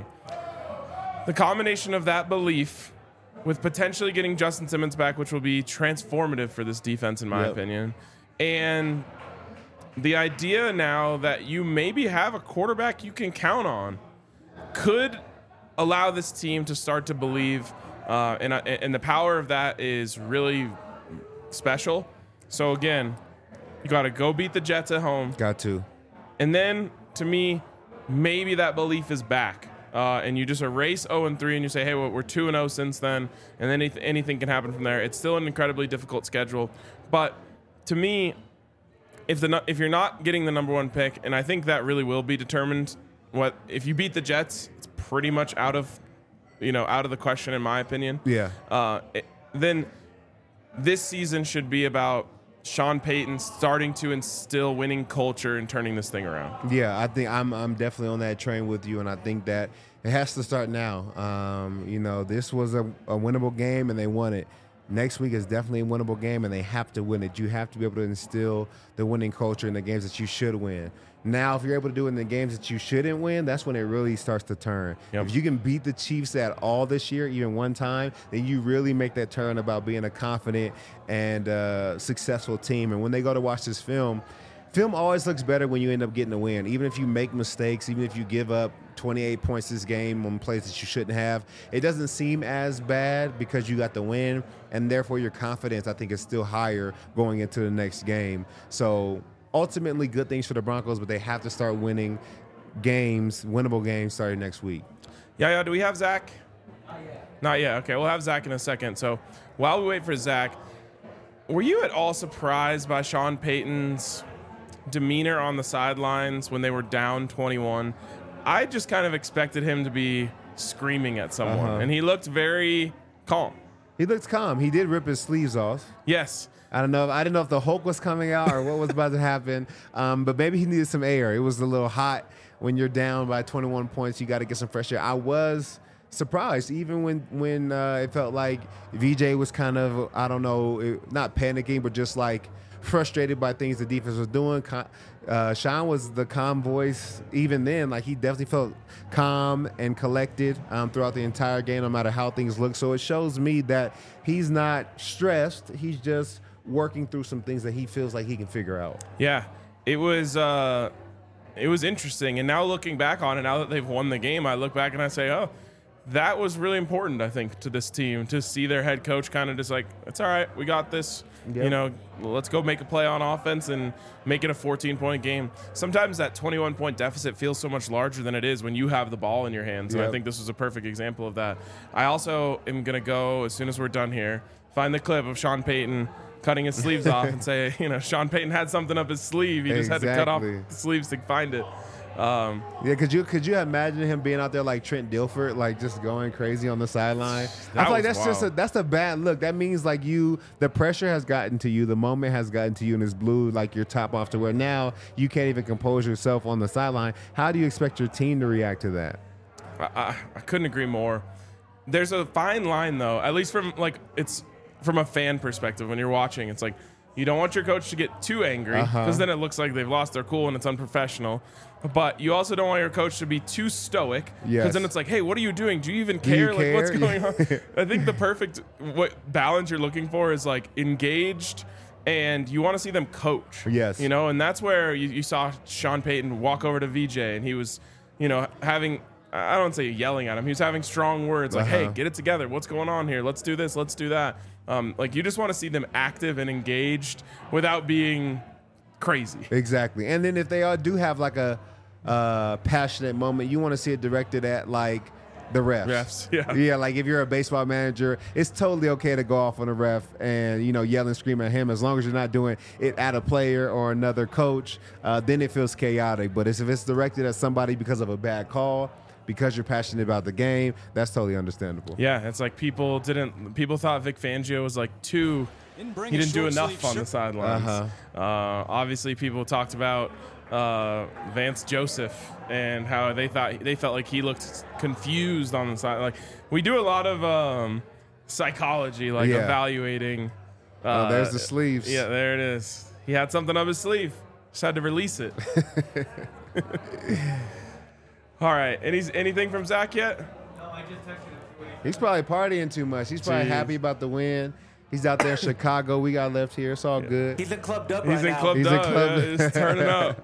The combination of that belief with potentially getting Justin Simmons back, which will be transformative for this defense, in my Yep. opinion, and the idea now that you maybe have a quarterback you can count on could allow this team to start to believe, uh, and, uh, and the power of that is really special. So again, you got to go beat the Jets at home. Got to. And then, to me, maybe that belief is back. Uh, and you just erase oh and three and you say, hey, well, we're two and oh since then, and then anyth- anything can happen from there. It's still an incredibly difficult schedule. But to me, if the if you're not getting the number one pick, and I think that really will be determined, what if you beat the Jets, it's pretty much out of, you know, out of the question, in my opinion. Yeah. Uh, it, then this season should be about Sean Payton starting to instill winning culture and turning this thing around. Yeah, I think I'm I'm definitely on that train with you, and I think that it has to start now. Um, you know, this was a, a winnable game, and they won it. Next week is definitely a winnable game, and they have to win it. You have to be able to instill the winning culture in the games that you should win. Now, if you're able to do it in the games that you shouldn't win, that's when it really starts to turn. Yep. If you can beat the Chiefs at all this year, even one time, then you really make that turn about being a confident and uh, successful team. And when they go to watch this film, film always looks better when you end up getting a win. Even if you make mistakes, even if you give up twenty-eight points this game on plays that you shouldn't have, it doesn't seem as bad because you got the win, and therefore your confidence, I think, is still higher going into the next game. So ultimately good things for the Broncos, but they have to start winning games, winnable games starting next week. Yeah, yeah. Do we have Zach? Not yet. Okay, we'll have Zach in a second. So while we wait for Zach, were you at all surprised by Sean Payton's demeanor on the sidelines when they were down twenty-one? I just kind of expected him to be screaming at someone, Uh-huh. and he looked very calm. He looked calm. He did rip his sleeves off. Yes. I don't know. If, I didn't know if the Hulk was coming out or what was about to happen. Um, but maybe he needed some air. It was a little hot when you're down by twenty-one points. You got to get some fresh air. I was surprised, even when when uh, it felt like V J was kind of, I don't know, it- not panicking, but just like frustrated by things the defense was doing. Con- Uh, Sean was the calm voice even then. Like, he definitely felt calm and collected um, throughout the entire game, no matter how things look. So it shows me that he's not stressed. He's just working through some things that he feels like he can figure out. Yeah, it was uh, it was interesting. And now looking back on it, now that they've won the game, I look back and I say, oh, that was really important, I think, to this team, to see their head coach kind of just like, it's all right, we got this. Yep. You know, let's go make a play on offense and make it a fourteen-point game. Sometimes that twenty-one-point deficit feels so much larger than it is when you have the ball in your hands. And Yep. I think this was a perfect example of that. I also am going to go, as soon as we're done here, find the clip of Sean Payton cutting his sleeves off and say, you know, Sean Payton had something up his sleeve. He just had to cut off Exactly. the sleeves to find it. Um, Yeah, could you could you imagine him being out there like Trent Dilfer, like just going crazy on the sideline? I That feel like was that's just a, wild. that's a bad look. That means like you, the pressure has gotten to you, the moment has gotten to you, and it's blew like your top off to where now you can't even compose yourself on the sideline. How do you expect your team to react to that? I, I, I couldn't agree more. There's a fine line, though, at least from like it's from a fan perspective. When you're watching, it's like you don't want your coach to get too angry because Uh-huh. then it looks like they've lost their cool and it's unprofessional. But you also don't want your coach to be too stoic because Yes. then it's like, hey, what are you doing? Do you even you care? Like, what's care? going on? I think the perfect what balance you're looking for is like engaged. And you want to see them coach. Yes. You know, and that's where you, you saw Sean Payton walk over to V J and he was, you know, having, I don't say yelling at him. He was having strong words like, Uh-huh. hey, get it together. What's going on here? Let's do this. Let's do that. Um, like, you just want to see them active and engaged without being crazy. Exactly. And then if they all do have like a uh, passionate moment, you want to see it directed at like the refs. Refs, yeah. Yeah, like if you're a baseball manager, it's totally okay to go off on a ref and, you know, yell and scream at him as long as you're not doing it at a player or another coach. Uh, then it feels chaotic. But if it's directed at somebody because of a bad call, because you're passionate about the game, that's totally understandable. Yeah, it's like people didn't, people thought Vic Fangio was like too, Didn't bring he a didn't do short enough sleeve on the shirt. sidelines. Uh-huh. Uh, obviously, people talked about uh, Vance Joseph and how they thought they felt like he looked confused on the side. Like, we do a lot of um, psychology, like Yeah. evaluating. Uh, Oh, there's the sleeves. Yeah, there it is. He had something up his sleeve. Just had to release it. All right. Any anything from Zach yet? He's probably partying too much. He's probably Jeez. happy about the win. He's out there in Chicago. We got left here. It's all good. He's in clubbed up He's right in now. Club He's in Dub. Club- Yeah, he's turning up.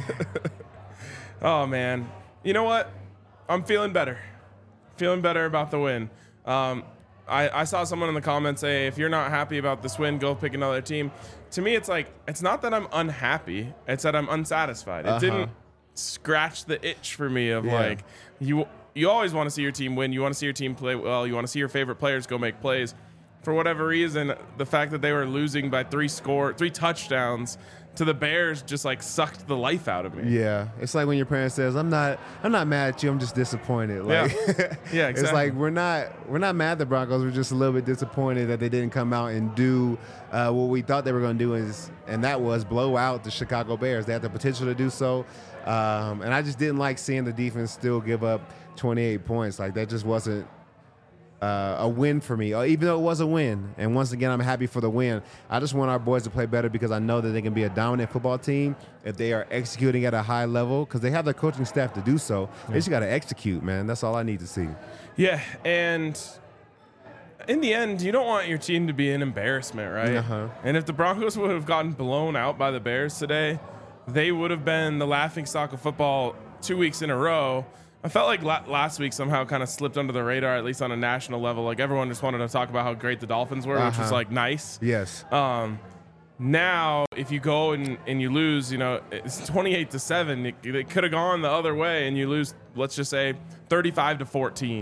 Oh, man. You know what? I'm feeling better. Feeling better about the win. Um, I, I saw someone in the comments say, if you're not happy about this win, go pick another team. To me, it's like, it's not that I'm unhappy. It's that I'm unsatisfied. It Uh-huh. didn't scratch the itch for me of Yeah. like, you you always want to see your team win. You want to see your team play well. You want to see your favorite players go make plays. For whatever reason, the fact that they were losing by three score, three touchdowns to the Bears just like sucked the life out of me. Yeah, it's like when your parent says, "I'm not, I'm not mad at you. I'm just disappointed." Like, Yeah. Yeah, It's exactly. like we're not, we're not mad at the Broncos. We're just a little bit disappointed that they didn't come out and do uh, what we thought they were going to do, is, and that was blow out the Chicago Bears. They had the potential to do so, um, and I just didn't like seeing the defense still give up twenty-eight points. Like, that just wasn't uh, a win for me, uh, even though it was a win. And once again, I'm happy for the win. I just want our boys to play better because I know that they can be a dominant football team if they are executing at a high level, because they have the coaching staff to do so. They just got to execute, man. That's all I need to see. Yeah, and in the end, you don't want your team to be an embarrassment, right? Uh-huh. And if the Broncos would have gotten blown out by the Bears today, they would have been the laughingstock of football two weeks in a row. I felt like la- last week somehow kind of slipped under the radar, at least on a national level. Like, everyone just wanted to talk about how great the Dolphins were, which was Uh-huh. like nice. Yes. Um, now, if you go and, and you lose, you know, it's twenty-eight to seven. It, it could have gone the other way, and you lose, let's just say, thirty-five to fourteen.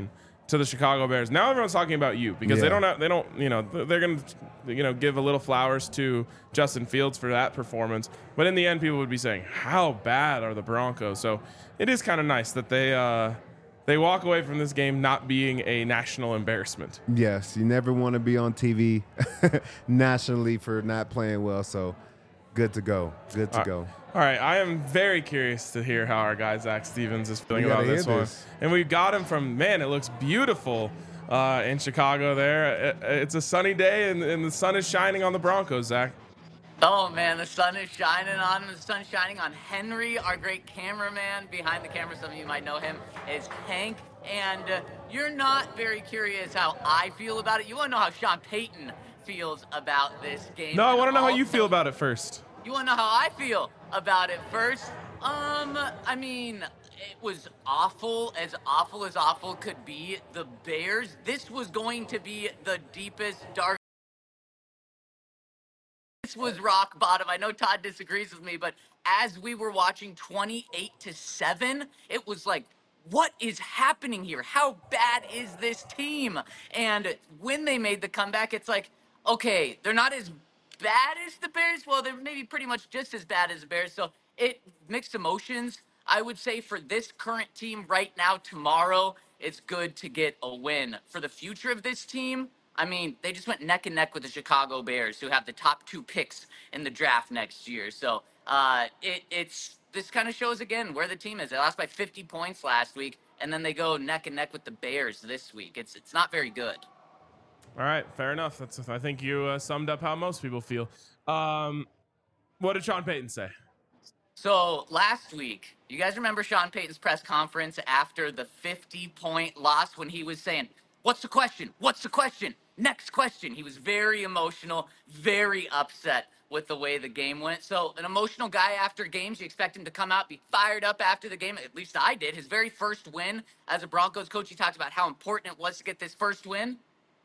to the Chicago Bears. Now everyone's talking about you because Yeah. they don't have, they don't you know they're going to you know give a little flowers to Justin Fields for that performance, but in the end people would be saying how bad are the Broncos. So it is kind of nice that they uh, they walk away from this game not being a national embarrassment. Yes, you never want to be on T V nationally for not playing well. So good to go. Good to All right. go. All right, I am very curious to hear how our guy Zach Stevens is feeling We gotta about this hear one. this. And we've got him from, man, it looks beautiful uh, in Chicago there. It- it's a sunny day, and, and the sun is shining on the Broncos, Zach. Oh man, the sun is shining on the sun is shining on Henry, our great cameraman behind the camera. Some of you might know him is Hank, and uh, you're not very curious how I feel about it. You want to know how Sean Payton feels about this game? No, I And want to know how you also- feel about it first. You want to know how I feel about it first? Um, I mean, it was awful, as awful as awful could be. The Bears, this was going to be the deepest, dark. This was rock bottom. I know Todd disagrees with me, but as we were watching twenty-eight to seven, it was like, what is happening here? How bad is this team? And when they made the comeback, it's like, okay, they're not as bad as the Bears. Well, they're maybe pretty much just as bad as the Bears. So it mixed emotions. I would say for this current team right now, tomorrow, it's good to get a win. For the future of this team, I mean, they just went neck and neck with the Chicago Bears, who have the top two picks in the draft next year. So uh, it, it's this kind of shows again where the team is. They lost by fifty points last week, and then they go neck and neck with the Bears this week. It's it's not very good. All right, fair enough. That's I think you uh, summed up how most people feel. Um, what did Sean Payton say? So last week, you guys remember Sean Payton's press conference after the fifty-point loss when he was saying, "What's the question? What's the question? Next question." He was very emotional, very upset with the way the game went. So an emotional guy after games, you expect him to come out, be fired up after the game. At least I did. His very first win as a Broncos coach, he talked about how important it was to get this first win.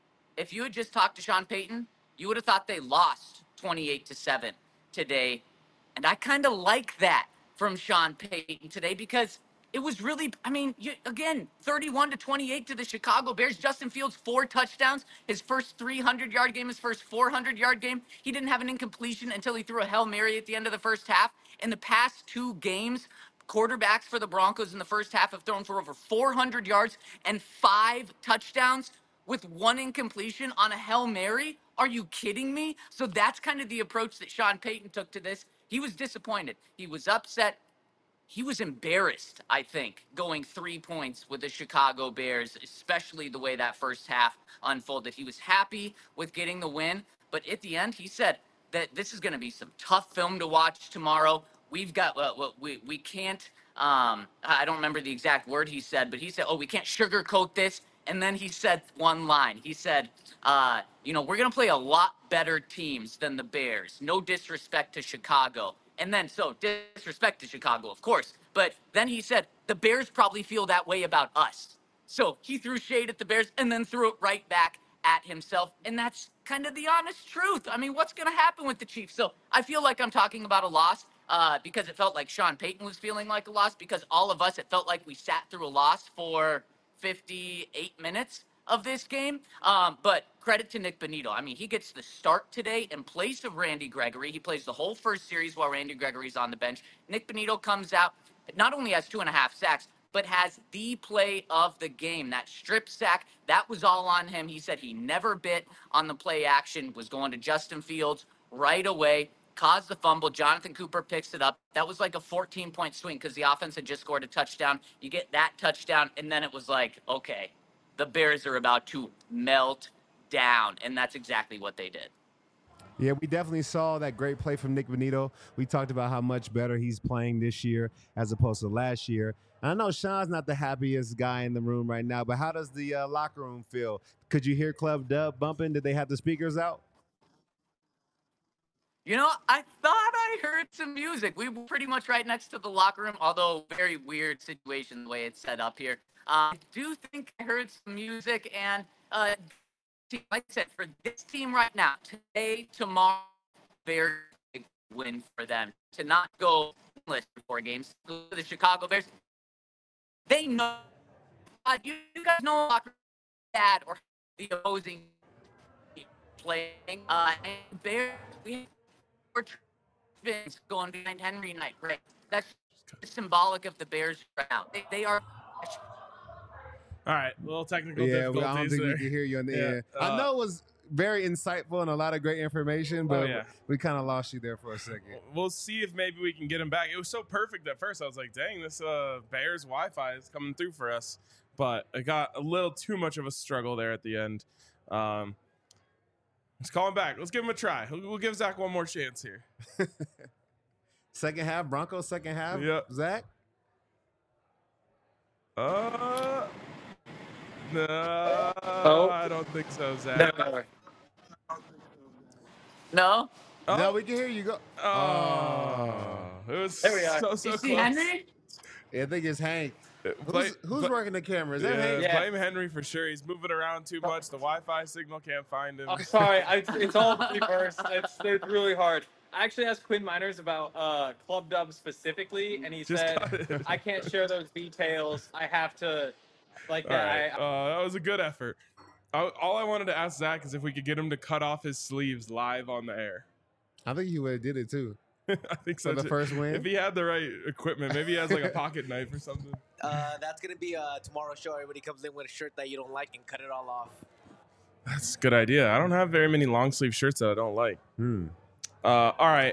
If you had just talked to Sean Payton, you would have thought they lost twenty-eight to seven today. And I kind of like that from Sean Payton today because it was really, I mean, you, again, thirty-one to twenty-eight to the Chicago Bears. Justin Fields, four touchdowns. His first three hundred yard game, his first four hundred yard game. He didn't have an incompletion until he threw a Hail Mary at the end of the first half. In the past two games, quarterbacks for the Broncos in the first half have thrown for over four hundred yards and five touchdowns with one incompletion on a Hail Mary. Are you kidding me? So that's kind of the approach that Sean Payton took to this. He was disappointed. He was upset. He was embarrassed, I think, going three points with the Chicago Bears, especially the way that first half unfolded. He was happy with getting the win, but at the end, he said that this is going to be some tough film to watch tomorrow. We've got, well, we, we can't, um, I don't remember the exact word he said, but he said, oh, we can't sugarcoat this. And then he said one line. He said, uh, you know, we're going to play a lot better teams than the Bears. No disrespect to Chicago. And then, so disrespect to Chicago, of course. But then he said, the Bears probably feel that way about us. So he threw shade at the Bears and then threw it right back at himself. And that's kind of the honest truth. I mean, what's going to happen with the Chiefs? So I feel like I'm talking about a loss uh, because it felt like Sean Payton was feeling like a loss, because all of us, it felt like we sat through a loss for fifty-eight minutes of this game. Um, but credit to Nick Bonito. I mean, he gets the start today in place of Randy Gregory. He plays the whole first series while Randy Gregory's on the bench. Nick Bonito comes out, not only has two and a half sacks, but has the play of the game. That strip sack, that was all on him. He said he never bit on the play action, was going to Justin Fields right away, caused the fumble. Jonathan Cooper picks it up. That was like a fourteen-point swing because the offense had just scored a touchdown. You get that touchdown, and then it was like, okay, the Bears are about to melt down, and that's exactly what they did. Yeah, we definitely saw that great play from Nick Bonito. We talked about how much better he's playing this year as opposed to last year. And I know Sean's not the happiest guy in the room right now, but how does the uh, locker room feel? Could you hear Club Dub bumping? Did they have the speakers out? You know, I thought I heard some music. We were pretty much right next to the locker room, although very weird situation the way it's set up here. Uh, I do think I heard some music, and uh, like I said, for this team right now, today, tomorrow, very big win for them to not go winless for four games. The Chicago Bears, they know. Uh, you guys know locker at or the opposing playing. Uh, and Bears, we have Vince going behind Henry Knight, right? That's symbolic of the Bears right now. They, they are. All right, a little technical Yeah, difficulties well, I don't think there. we can hear you on the Yeah, end. uh, I know it was very insightful and a lot of great information, but Oh, yeah. we kind of lost you there for a second. We'll see if maybe we can get him back. It was so perfect at first. I was like, dang, this uh, Bears Wi-Fi is coming through for us. But it got a little too much of a struggle there at the end. Um, let's call him back. Let's give him a try. We'll, we'll give Zach one more chance here. Second half, Broncos second half. Yep. Zach? Uh, no, Oh. I don't think so, Zach. No. No? Oh. No, we can hear you. Go. Oh, it was There we are. so, so You close. see Henry? Yeah, I think it's Hank. Who's, Play- who's but- working the camera? Is that Yeah, Hank? Yeah. blame Henry for sure. He's moving around too much. The Wi-Fi signal can't find him. I'm sorry. I, it's all reversed. It's, it's really hard. I actually asked Quinn Miners about uh, Club Dub specifically, and he Just said, cut it. I can't share those details. I have to, like All that. right. I, Uh, that was a good effort. I, all I wanted to ask Zach is if we could get him to cut off his sleeves live on the air. I think he would have did it too. I think so. For the too. first win? If he had the right equipment, maybe he has like a pocket knife or something. Uh, that's gonna be uh, tomorrow's show. Everybody comes in with a shirt that you don't like and cut it all off. That's a good idea. I don't have very many long sleeve shirts that I don't like. Hmm. Uh, all right.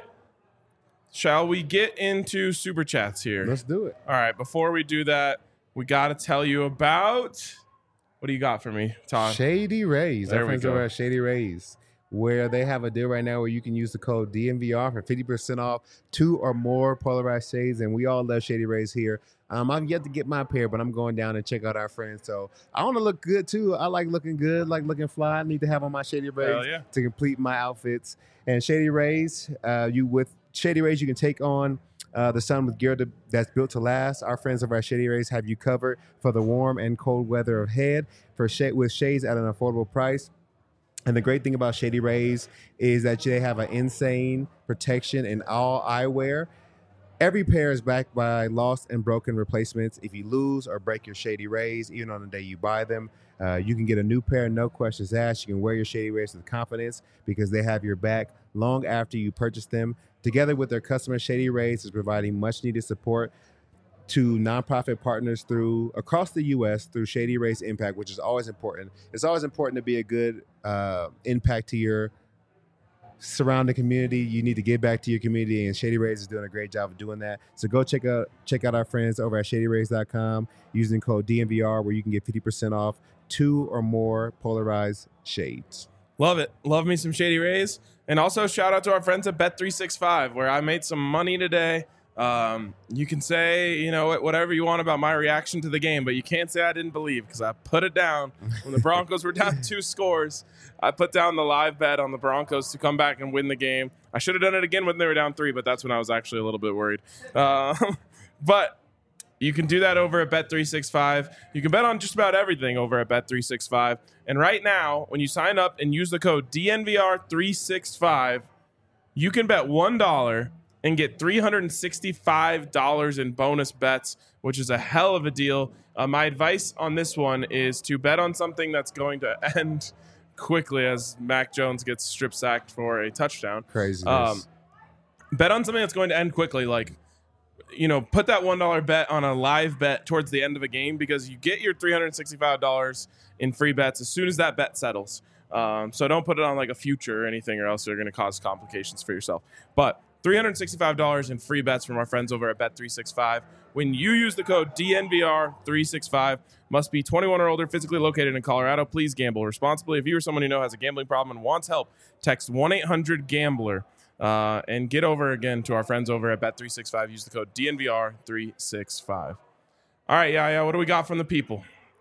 Shall we get into super chats here? Let's do it. All right. Before we do that, we got to tell you about. What do you got for me, Todd? Shady Rays. There Our we friends go. over at Shady Rays, where they have a deal right now where you can use the code D N V R for fifty percent off two or more polarized shades. And we all love Shady Rays here. Um, I've yet to get my pair, but I'm going down and check out our friends. So I want to look good too. I like looking good, like looking fly. I need to have on my Shady Rays Hell yeah. to complete my outfits. And Shady Rays, uh, you with Shady Rays, you can take on uh, the sun with gear to, that's built to last. Our friends over at Shady Rays have you covered for the warm and cold weather ahead for sh- with shades at an affordable price. And the great thing about Shady Rays is that they have an insane protection in all eyewear. Every pair is backed by lost and broken replacements. If you lose or break your Shady Rays, even on the day you buy them, uh, you can get a new pair, no questions asked. You can wear your Shady Rays with confidence because they have your back long after you purchase them. Together with their customers, Shady Rays is providing much-needed support to nonprofit partners through across the U S through Shady Rays Impact, which is always important. It's always important to be a good uh, impact to your surrounding community. You need to give back to your community, and Shady Rays is doing a great job of doing that. So go check out check out our friends over at shady rays dot com using code D N V R, where you can get fifty percent off two or more polarized shades. Love it. Love me some Shady Rays. And also shout out to our friends at Bet three sixty-five, where I made some money today. Um, you can say, you know, whatever you want about my reaction to the game, but you can't say I didn't believe because I put it down when the Broncos were down two scores. I put down the live bet on the Broncos to come back and win the game. I should have done it again when they were down three, but that's when I was actually a little bit worried. Uh, but you can do that over at Bet three sixty-five. You can bet on just about everything over at Bet three sixty-five. And right now, when you sign up and use the code D N V R three sixty-five, you can bet one dollar and get three hundred sixty-five dollars in bonus bets, which is a hell of a deal. Uh, my advice on this one is to bet on something that's going to end quickly as Mac Jones gets strip sacked for a touchdown. Craziness. Um, bet on something that's going to end quickly, like, you know, put that one dollar bet on a live bet towards the end of a game because you get your three hundred sixty-five dollars in free bets as soon as that bet settles. Um, so don't put it on like a future or anything, or else you're going to cause complications for yourself. But three hundred sixty-five dollars in free bets from our friends over at Bet three sixty-five. When you use the code D N V R three sixty-five, must be twenty-one or older, physically located in Colorado. Please gamble responsibly. If you or someone you know has a gambling problem and wants help, text one eight hundred gambler uh, and get over again to our friends over at Bet three sixty-five. Use the code D N V R three sixty-five. All right, yeah, yeah. What do we got from the people?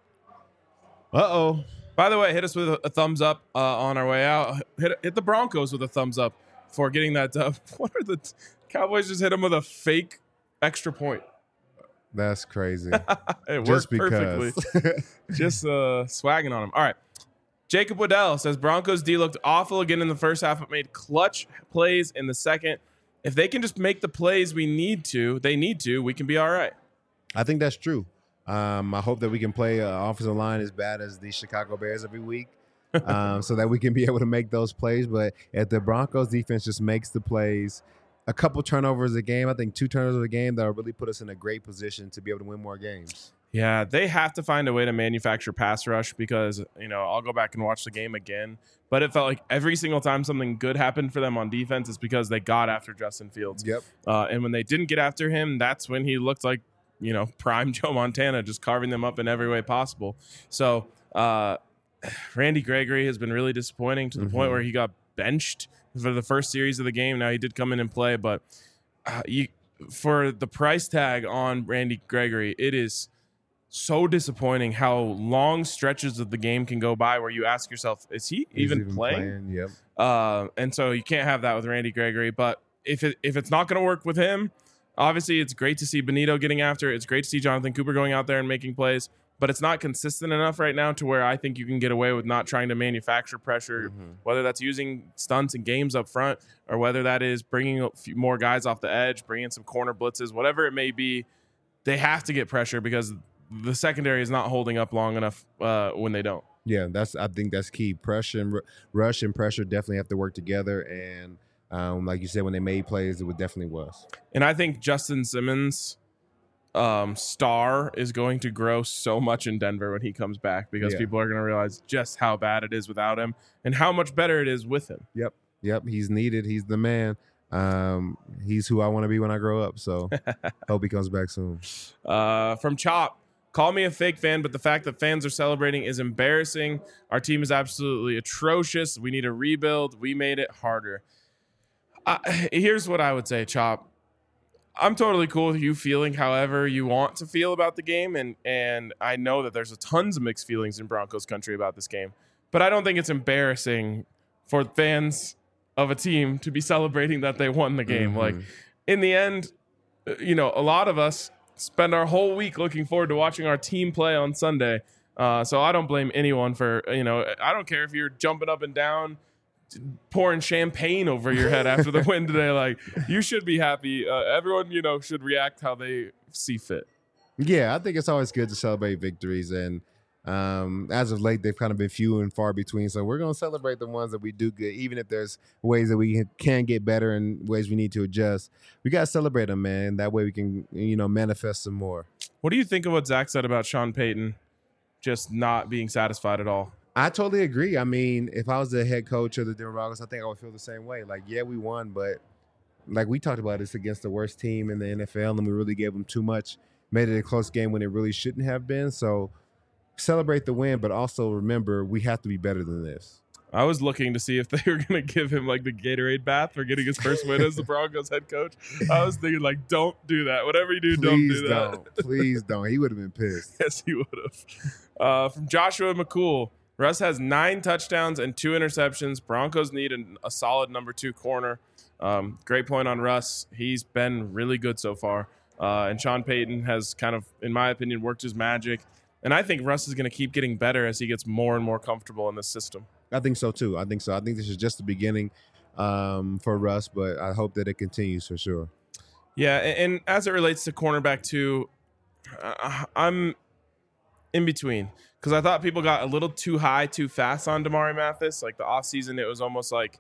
Uh-oh. By the way, hit us with a, a thumbs up uh, on our way out. Hit, hit the Broncos with a thumbs up for getting that dub. What are the t- Cowboys just hit them with a fake extra point? That's crazy. It Just worked perfectly. because. Just uh, swagging on them. All right. Jacob Waddell says Broncos D looked awful again in the first half, but made clutch plays in the second. If they can just make the plays we need to, they need to, we can be all right. I think that's true. Um, I hope that we can play uh, offensive line as bad as the Chicago Bears every week, um, so that we can be able to make those plays. But if the Broncos defense just makes the plays, a couple turnovers a game, I think two turnovers a game, that'll really put us in a great position to be able to win more games. Yeah, they have to find a way to manufacture pass rush because, you know, I'll go back and watch the game again. But it felt like every single time something good happened for them on defense is because they got after Justin Fields. Yep. Uh, and when they didn't get after him, that's when he looked like, you know, prime Joe Montana, just carving them up in every way possible. So uh, Randy Gregory has been really disappointing to the mm-hmm. point where he got benched for the first series of the game. Now, he did come in and play, but uh, you, for the price tag on Randy Gregory, it is so disappointing how long stretches of the game can go by where you ask yourself, is he even, even playing? playing? Yep. Uh, and so you can't have that with Randy Gregory. But if it, if it's not going to work with him, obviously it's great to see Benito getting after it. It's great to see Jonathan Cooper going out there and making plays. But it's not consistent enough right now to where I think you can get away with not trying to manufacture pressure, mm-hmm. whether that's using stunts and games up front or whether that is bringing a few more guys off the edge, bringing some corner blitzes, whatever it may be. They have to get pressure because the secondary is not holding up long enough uh, when they don't. Yeah, that's. I think that's key. Pressure and r- rush and pressure definitely have to work together. And um, like you said, when they made plays, it would definitely was. And I think Justin Simmons' um, star is going to grow so much in Denver when he comes back because yeah. people are going to realize just how bad it is without him and how much better it is with him. Yep, yep. He's needed. He's the man. Um, he's who I want to be when I grow up. So hope he comes back soon. Uh, from Chop. Call me a fake fan, but the fact that fans are celebrating is embarrassing. Our team is absolutely atrocious. We need a rebuild. We made it harder. Uh, here's what I would say, Chop. I'm totally cool with you feeling however you want to feel about the game, and and I know that there's a tons of mixed feelings in Broncos country about this game, but I don't think it's embarrassing for fans of a team to be celebrating that they won the game. Mm-hmm. Like, in the end, you know, a lot of us spend our whole week looking forward to watching our team play on Sunday. Uh, so I don't blame anyone for, you know, I don't care if you're jumping up and down, pouring champagne over your head after the win today. Like, you should be happy. Uh, everyone, you know, should react how they see fit. Yeah, I think it's always good to celebrate victories. And um, as of late, they've kind of been few and far between. So we're going to celebrate the ones that we do good, even if there's ways that we can get better and ways we need to adjust. We got to celebrate them, man. That way we can, you know, manifest some more. What do you think of what Zach said about Sean Payton just not being satisfied at all? I totally agree. I mean, if I was the head coach of the Denver Broncos, I think I would feel the same way. Like, yeah, we won, but like we talked about, it's against the worst team in the N F L, and we really gave them too much, made it a close game when it really shouldn't have been. So celebrate the win, but also remember we have to be better than this. I was looking to see if they were going to give him like the Gatorade bath for getting his first win as the Broncos head coach. I was thinking like, don't do that. Whatever you do, Please don't do that. Don't. Please don't. He would have been pissed. Yes, he would have. Uh, from Joshua McCool, Russ has nine touchdowns and two interceptions. Broncos need an, a solid number two corner. Um, great point on Russ. He's been really good so far. Uh, and Sean Payton has kind of, in my opinion, worked his magic. And I think Russ is going to keep getting better as he gets more and more comfortable in this system. I think so, too. I think so. I think this is just the beginning um, for Russ, but I hope that it continues for sure. Yeah, and, and as it relates to cornerback, too, uh, I'm in between. Because I thought people got a little too high too fast on Damari Mathis. Like, the offseason, it was almost like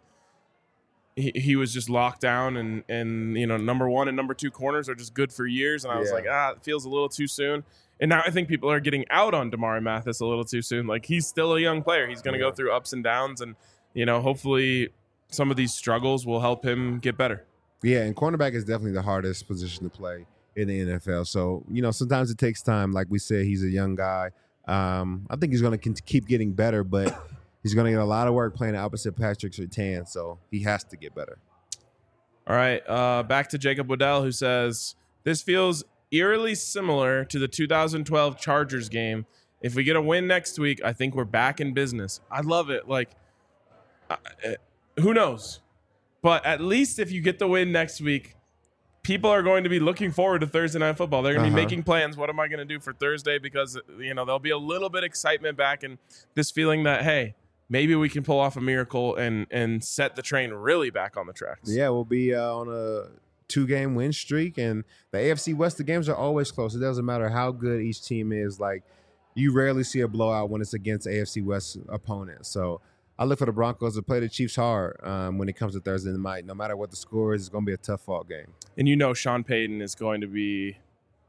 he, he was just locked down. And, and, you know, number one and number two corners are just good for years. And I was yeah. like, ah, it feels a little too soon. And now I think people are getting out on Damari Mathis a little too soon. Like, he's still a young player. He's going to yeah. go through ups and downs. And, you know, hopefully some of these struggles will help him get better. Yeah, and cornerback is definitely the hardest position to play in the N F L. So, you know, sometimes it takes time. Like we said, he's a young guy. Um, I think he's going to keep getting better, but he's going to get a lot of work playing opposite Patrick Surtain. So he has to get better. All right, uh, back to Jacob Waddell, who says, this feels eerily similar to the two thousand twelve Chargers game. If we get a win next week, I think we're back in business. I love it. Like, uh, who knows? But at least if you get the win next week, people are going to be looking forward to Thursday Night Football. They're going to uh-huh. be making plans. What am I going to do for Thursday? Because, you know, there'll be a little bit of excitement back and this feeling that, hey, maybe we can pull off a miracle and and set the train really back on the tracks. Yeah, we'll be uh, on a two-game win streak, and the A F C West, the games are always close. It doesn't matter how good each team is. Like, you rarely see a blowout when it's against A F C West opponents. So I look for the Broncos to play the Chiefs hard um, when it comes to Thursday night. No matter what the score is, it's going to be a tough fought game. And you know Sean Payton is going to be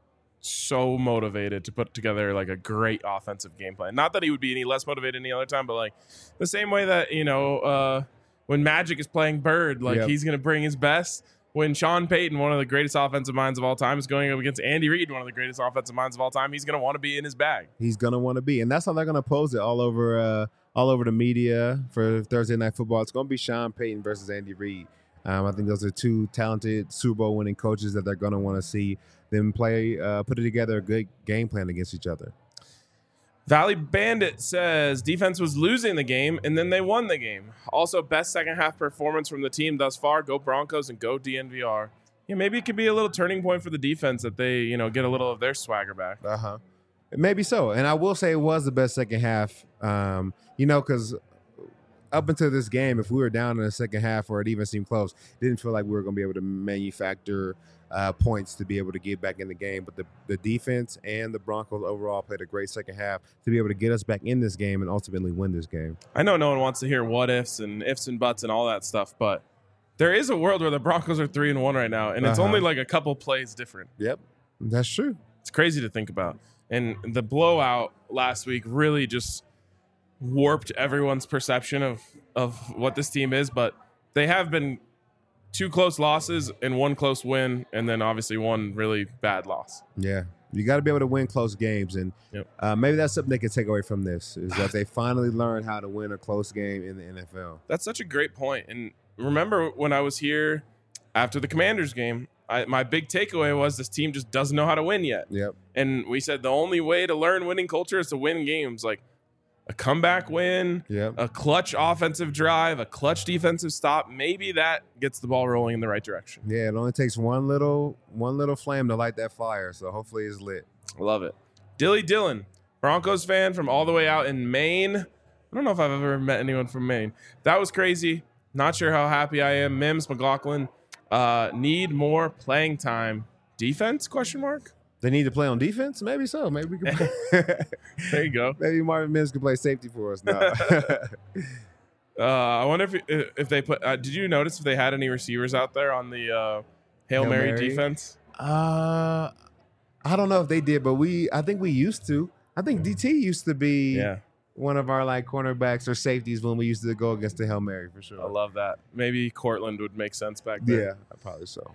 so motivated to put together like a great offensive game plan. Not that he would be any less motivated any other time, but like the same way that, you know, uh, when Magic is playing Bird, like Yep. he's going to bring his best. When Sean Payton, one of the greatest offensive minds of all time, is going up against Andy Reid, one of the greatest offensive minds of all time, he's going to want to be in his bag. He's going to want to be. And that's how they're going to pose it all over uh, all over the media for Thursday Night Football. It's going to be Sean Payton versus Andy Reid. Um, I think those are two talented Super Bowl winning coaches that they're going to want to see them play, uh, put it together a good game plan against each other. Valley Bandit says defense was losing the game and then they won the game. Also, best second half performance from the team thus far. Go Broncos and go D N V R. Yeah, maybe it could be a little turning point for the defense that they, you know, get a little of their swagger back. Uh huh. Maybe so. And I will say it was the best second half. Um, you know, because up until this game, if we were down in the second half or it even seemed close, it didn't feel like we were going to be able to manufacture uh, points to be able to get back in the game. But the, the defense and the Broncos overall played a great second half to be able to get us back in this game and ultimately win this game. I know no one wants to hear what ifs and ifs and buts and all that stuff, but there is a world where the Broncos are three and one right now, and it's Uh-huh. only like a couple plays different. Yep, that's true. It's crazy to think about. And the blowout last week really just warped everyone's perception of, of what this team is. But they have been two close losses and one close win, and then obviously one really bad loss. Yeah, you got to be able to win close games. And Yep. uh, maybe that's something they can take away from this, is that they finally learned how to win a close game in the N F L. That's such a great point. And remember when I was here after the Commanders game, I, my big takeaway was this team just doesn't know how to win yet. Yep. And we said the only way to learn winning culture is to win games. Like a comeback win, Yep. a clutch offensive drive, a clutch defensive stop. Maybe that gets the ball rolling in the right direction. Yeah, it only takes one little one little flame to light that fire. So hopefully it's lit. I love it. Dilly Dillon, Broncos fan from all the way out in Maine. I don't know if I've ever met anyone from Maine. That was crazy. Not sure how happy I am. Mims, McLaughlin, uh, need more playing time. Defense, question mark? They need to play on defense? Maybe so. Maybe we can play. There you go. Maybe Marvin Mims can play safety for us now. Uh, I wonder if if they put. Uh, did you notice if they had any receivers out there on the uh, Hail, Hail Mary, Mary? defense? uh, I don't know if they did, but we I think we used to. I think D T used to be Yeah, one of our like cornerbacks or safeties when we used to go against the Hail Mary for sure. I love that. Maybe Cortland would make sense back then. Yeah, probably so.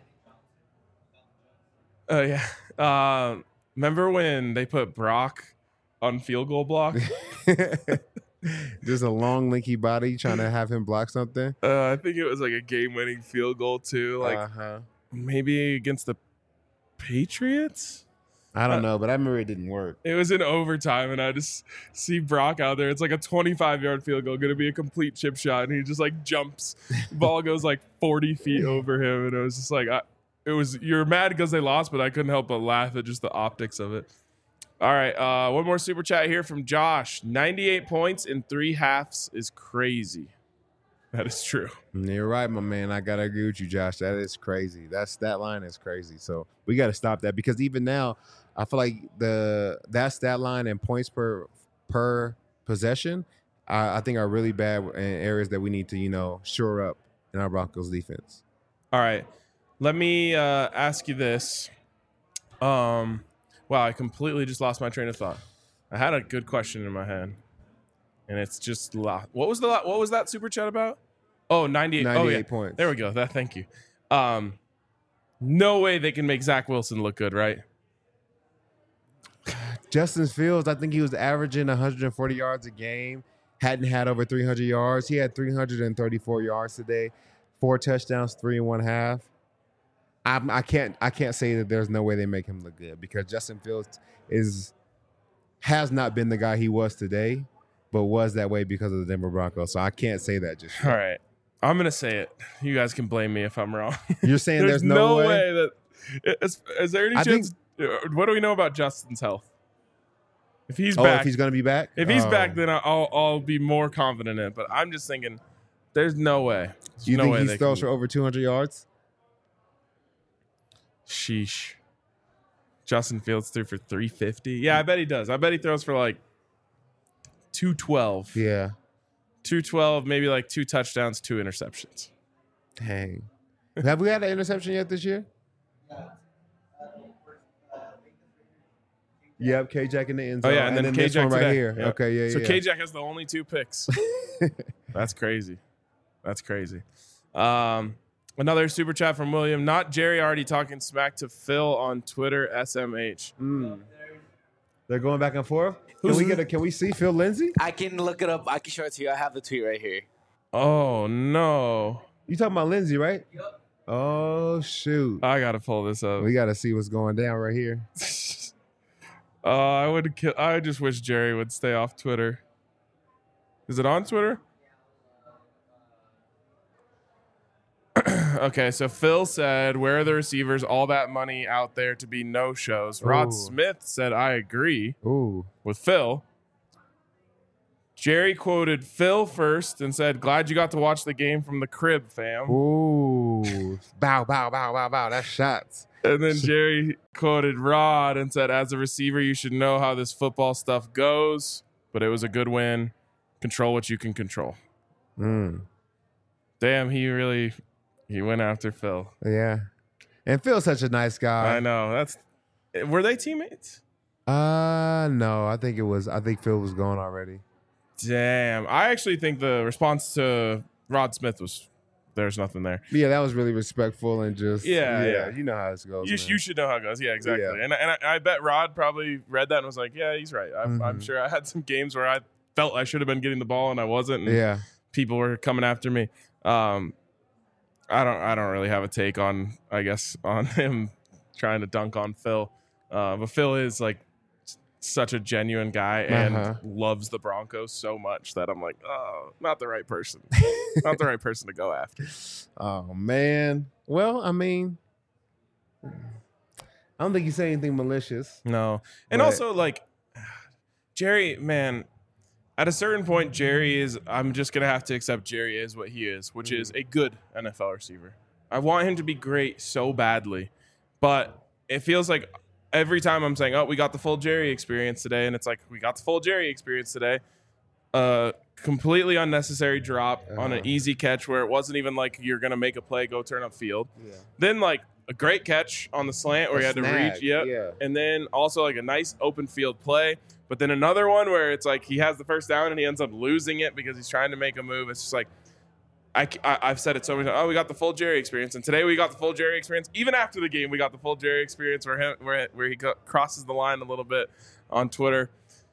Oh yeah. Uh, remember when they put Brock on field goal block? Just a long, lanky body trying to have him block something. Uh, I think it was like a game-winning field goal too. Like uh-huh. maybe against the Patriots. I don't know, but I remember it didn't work. It was in overtime, and I just see Brock out there. It's like a twenty-five-yard field goal, going to be a complete chip shot, and he just like jumps. Ball goes like forty feet over him, and it was just like, I, it was. You're mad because they lost, but I couldn't help but laugh at just the optics of it. All right, uh, one more super chat here from Josh. ninety-eight points in three halves is crazy. That is true. You're right, my man. I gotta agree with you, Josh. That is crazy. That stat line is crazy. So we got to stop that, because even now, I feel like the that stat line and points per per possession, I, I think are really bad in areas that we need to, you know, shore up in our Broncos defense. All right, let me uh, ask you this. Um, wow, I completely just lost my train of thought. I had a good question in my head, and it's just lo- what was the lo- what was that super chat about? Oh, ninety-eight. ninety-eight oh, yeah. points. There we go. That. Thank you. Um, no way they can make Zach Wilson look good, right? Justin Fields, I think he was averaging one hundred forty yards a game. Hadn't had over three hundred yards. He had three hundred thirty-four yards today, four touchdowns, three and one half. I, I can't I can't say that there's no way they make him look good, because Justin Fields is has not been the guy he was today, but was that way because of the Denver Broncos. So I can't say that just yet. All right, I'm gonna say it. You guys can blame me if I'm wrong. You're saying there's, there's, no, way? that. Is, is there any I chance? What do we know about Justin's health? If he's Oh, back, if he's going to be back? If he's Oh. back, then I'll I'll be more confident in it. But I'm just thinking, there's no way. There's You no think way he they throws can- for over two hundred yards? Sheesh. Justin Fields threw for three fifty. Yeah, I bet he does. I bet he throws for like two twelve. Yeah. two twelve, maybe like two touchdowns, two interceptions. Dang. Have we had an interception yet this year? Yep, K-Jack in the end Oh, zone. yeah, and, then, this K-Jack one right today. here. Yep. Okay, yeah, yeah. So yeah. K-Jack has the only two picks. That's crazy. That's crazy. Um, another super chat from William. Not Jerry already talking smack to Phil on Twitter, S M H. Mm. They're going back and forth. Can Who's we the- get a? Can we see Phil Lindsay? I can look it up. I can show it to you. I have the tweet right here. Oh, no. You talking about Lindsay, right? Yep. Oh shoot! I got to pull this up. We got to see what's going down right here. Uh, I would. Kill, I just wish Jerry would stay off Twitter. Is it on Twitter? Okay, so Phil said, "Where are the receivers? All that money out there to be no shows." Rod Ooh. Smith said, "I agree Ooh. with Phil." Jerry quoted Phil first and said, "Glad you got to watch the game from the crib, fam." Ooh. Bow, bow, bow, bow, bow. That's shots. And then Jerry quoted Rod and said, "As a receiver, you should know how this football stuff goes, but it was a good win. Control what you can control." Mm. Damn, he really he went after Phil. Yeah. And Phil's such a nice guy. I know. That's were they teammates? Uh no, I think it was. I think Phil was gone already. Damn. I actually think the response to Rod Smith was there's nothing there. Yeah, that was really respectful and just Yeah, yeah. You know how this goes. You, man. you should know how it goes. Yeah, exactly. Yeah. And, and I, I bet Rod probably read that and was like, yeah, he's right. I'm, I'm Mhm. sure I had some games where I felt I should have been getting the ball and I wasn't. And Yeah. people were coming after me. Um, I don't I don't really have a take on, I guess, on him trying to dunk on Phil. Uh, but Phil is like s- such a genuine guy and Uh-huh. loves the Broncos so much that I'm like, oh, not the right person. Not the right person to go after. Oh man. Well, I mean, I don't think you say anything malicious. No. And But- also, like, Jerry, man, at a certain point, Jerry is, I'm just going to have to accept Jerry is what he is, which is a good N F L receiver. I want him to be great so badly, but it feels like every time I'm saying, oh, we got the full Jerry experience today, and it's like, we got the full Jerry experience today. Uh, completely unnecessary drop on an Uh-huh. easy catch where it wasn't even like you're going to make a play, go turn upfield. Yeah. Then, like, a great catch on the slant where A he had to snag, reach. Yep. yeah. And then also like a nice open field play. But then another one where it's like he has the first down and he ends up losing it because he's trying to make a move. It's just like, I, I, have said it so many times. Oh, we got the full Jerry experience. And today we got the full Jerry experience. Even after the game, we got the full Jerry experience where, him, where, where he co- crosses the line a little bit on Twitter.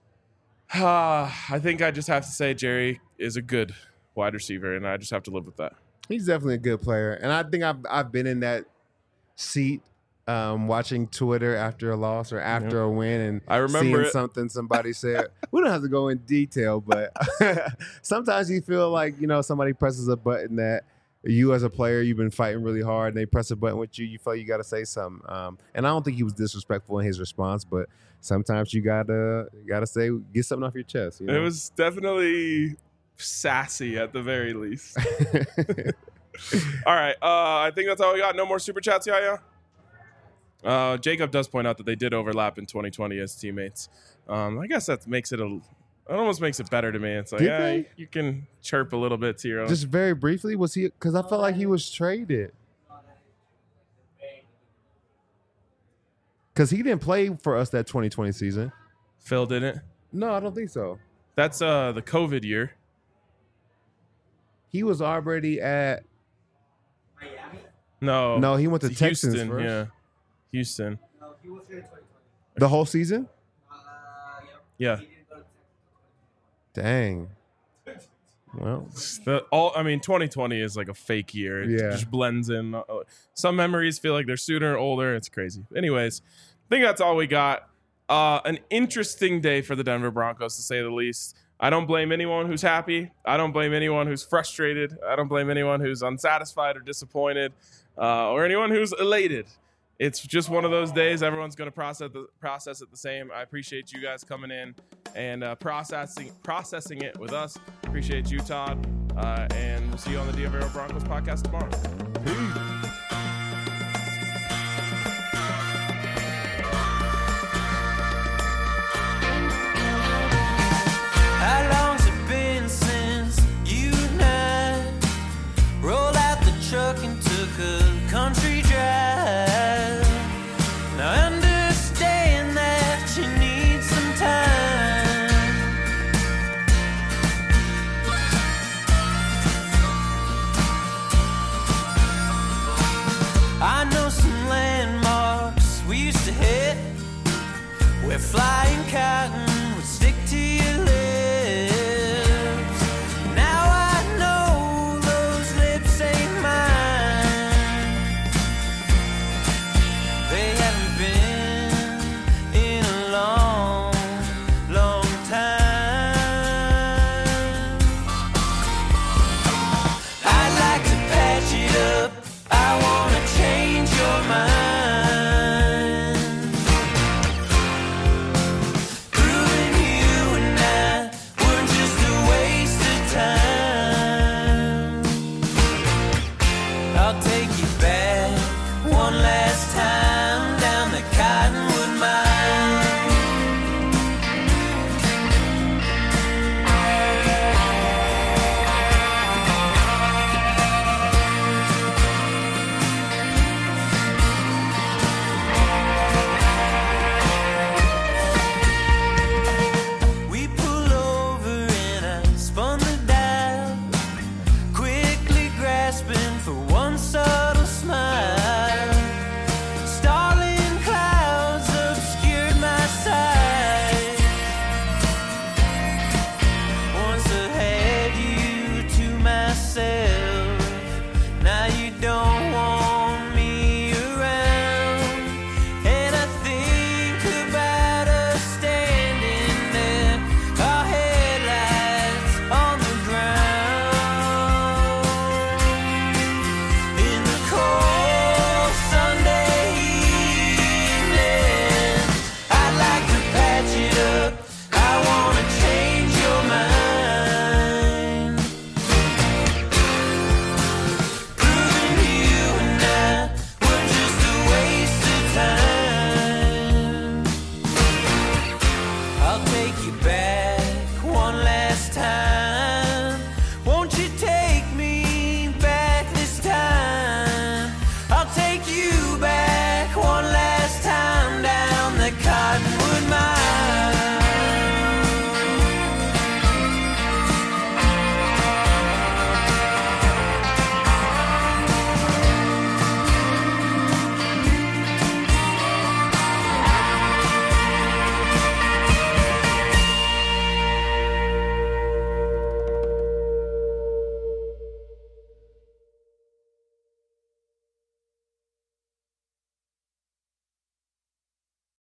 Uh, I think I just have to say Jerry is a good wide receiver, and I just have to live with that. He's definitely a good player, and I think I've I've been in that seat, um, watching Twitter after a loss or after Yep. a win, and I remember seeing it. something somebody said. We don't have to go in detail, but sometimes you feel like you know somebody presses a button that you as a player you've been fighting really hard, and they press a button with you. You feel you got to say something, um, and I don't think he was disrespectful in his response, but sometimes you gotta you gotta say get something off your chest. You know? It was definitely sassy at the very least. All right. Uh, I think that's all we got. No more super chats, Yaya? Uh, Jacob does point out that they did overlap in twenty twenty as teammates. Um, I guess that makes it a. It almost makes it better to me. It's like, Did yeah, they? you, you can chirp a little bit to your own. Just very briefly, was he? Because I felt like he was traded. Because he didn't play for us that twenty twenty season. Phil didn't. No, I don't think so. That's uh the COVID year. He was already at. No. No, he went to it's Texans Houston. first. Yeah. Houston. The whole season? Yeah. Dang. Well, The, all I mean, twenty twenty is like a fake year. It Yeah. just blends in. Uh, Some memories feel like they're sooner or older. It's crazy. Anyways, I think that's all we got. Uh, an interesting day for the Denver Broncos, to say the least. I don't blame anyone who's happy. I don't blame anyone who's frustrated. I don't blame anyone who's unsatisfied or disappointed, uh, or anyone who's elated. It's just one of those days. Everyone's going to process the process it the same. I appreciate you guys coming in and uh, processing processing it with us. Appreciate you, Todd. Uh, and we'll see you on the Dia Vero Broncos podcast tomorrow. Peace.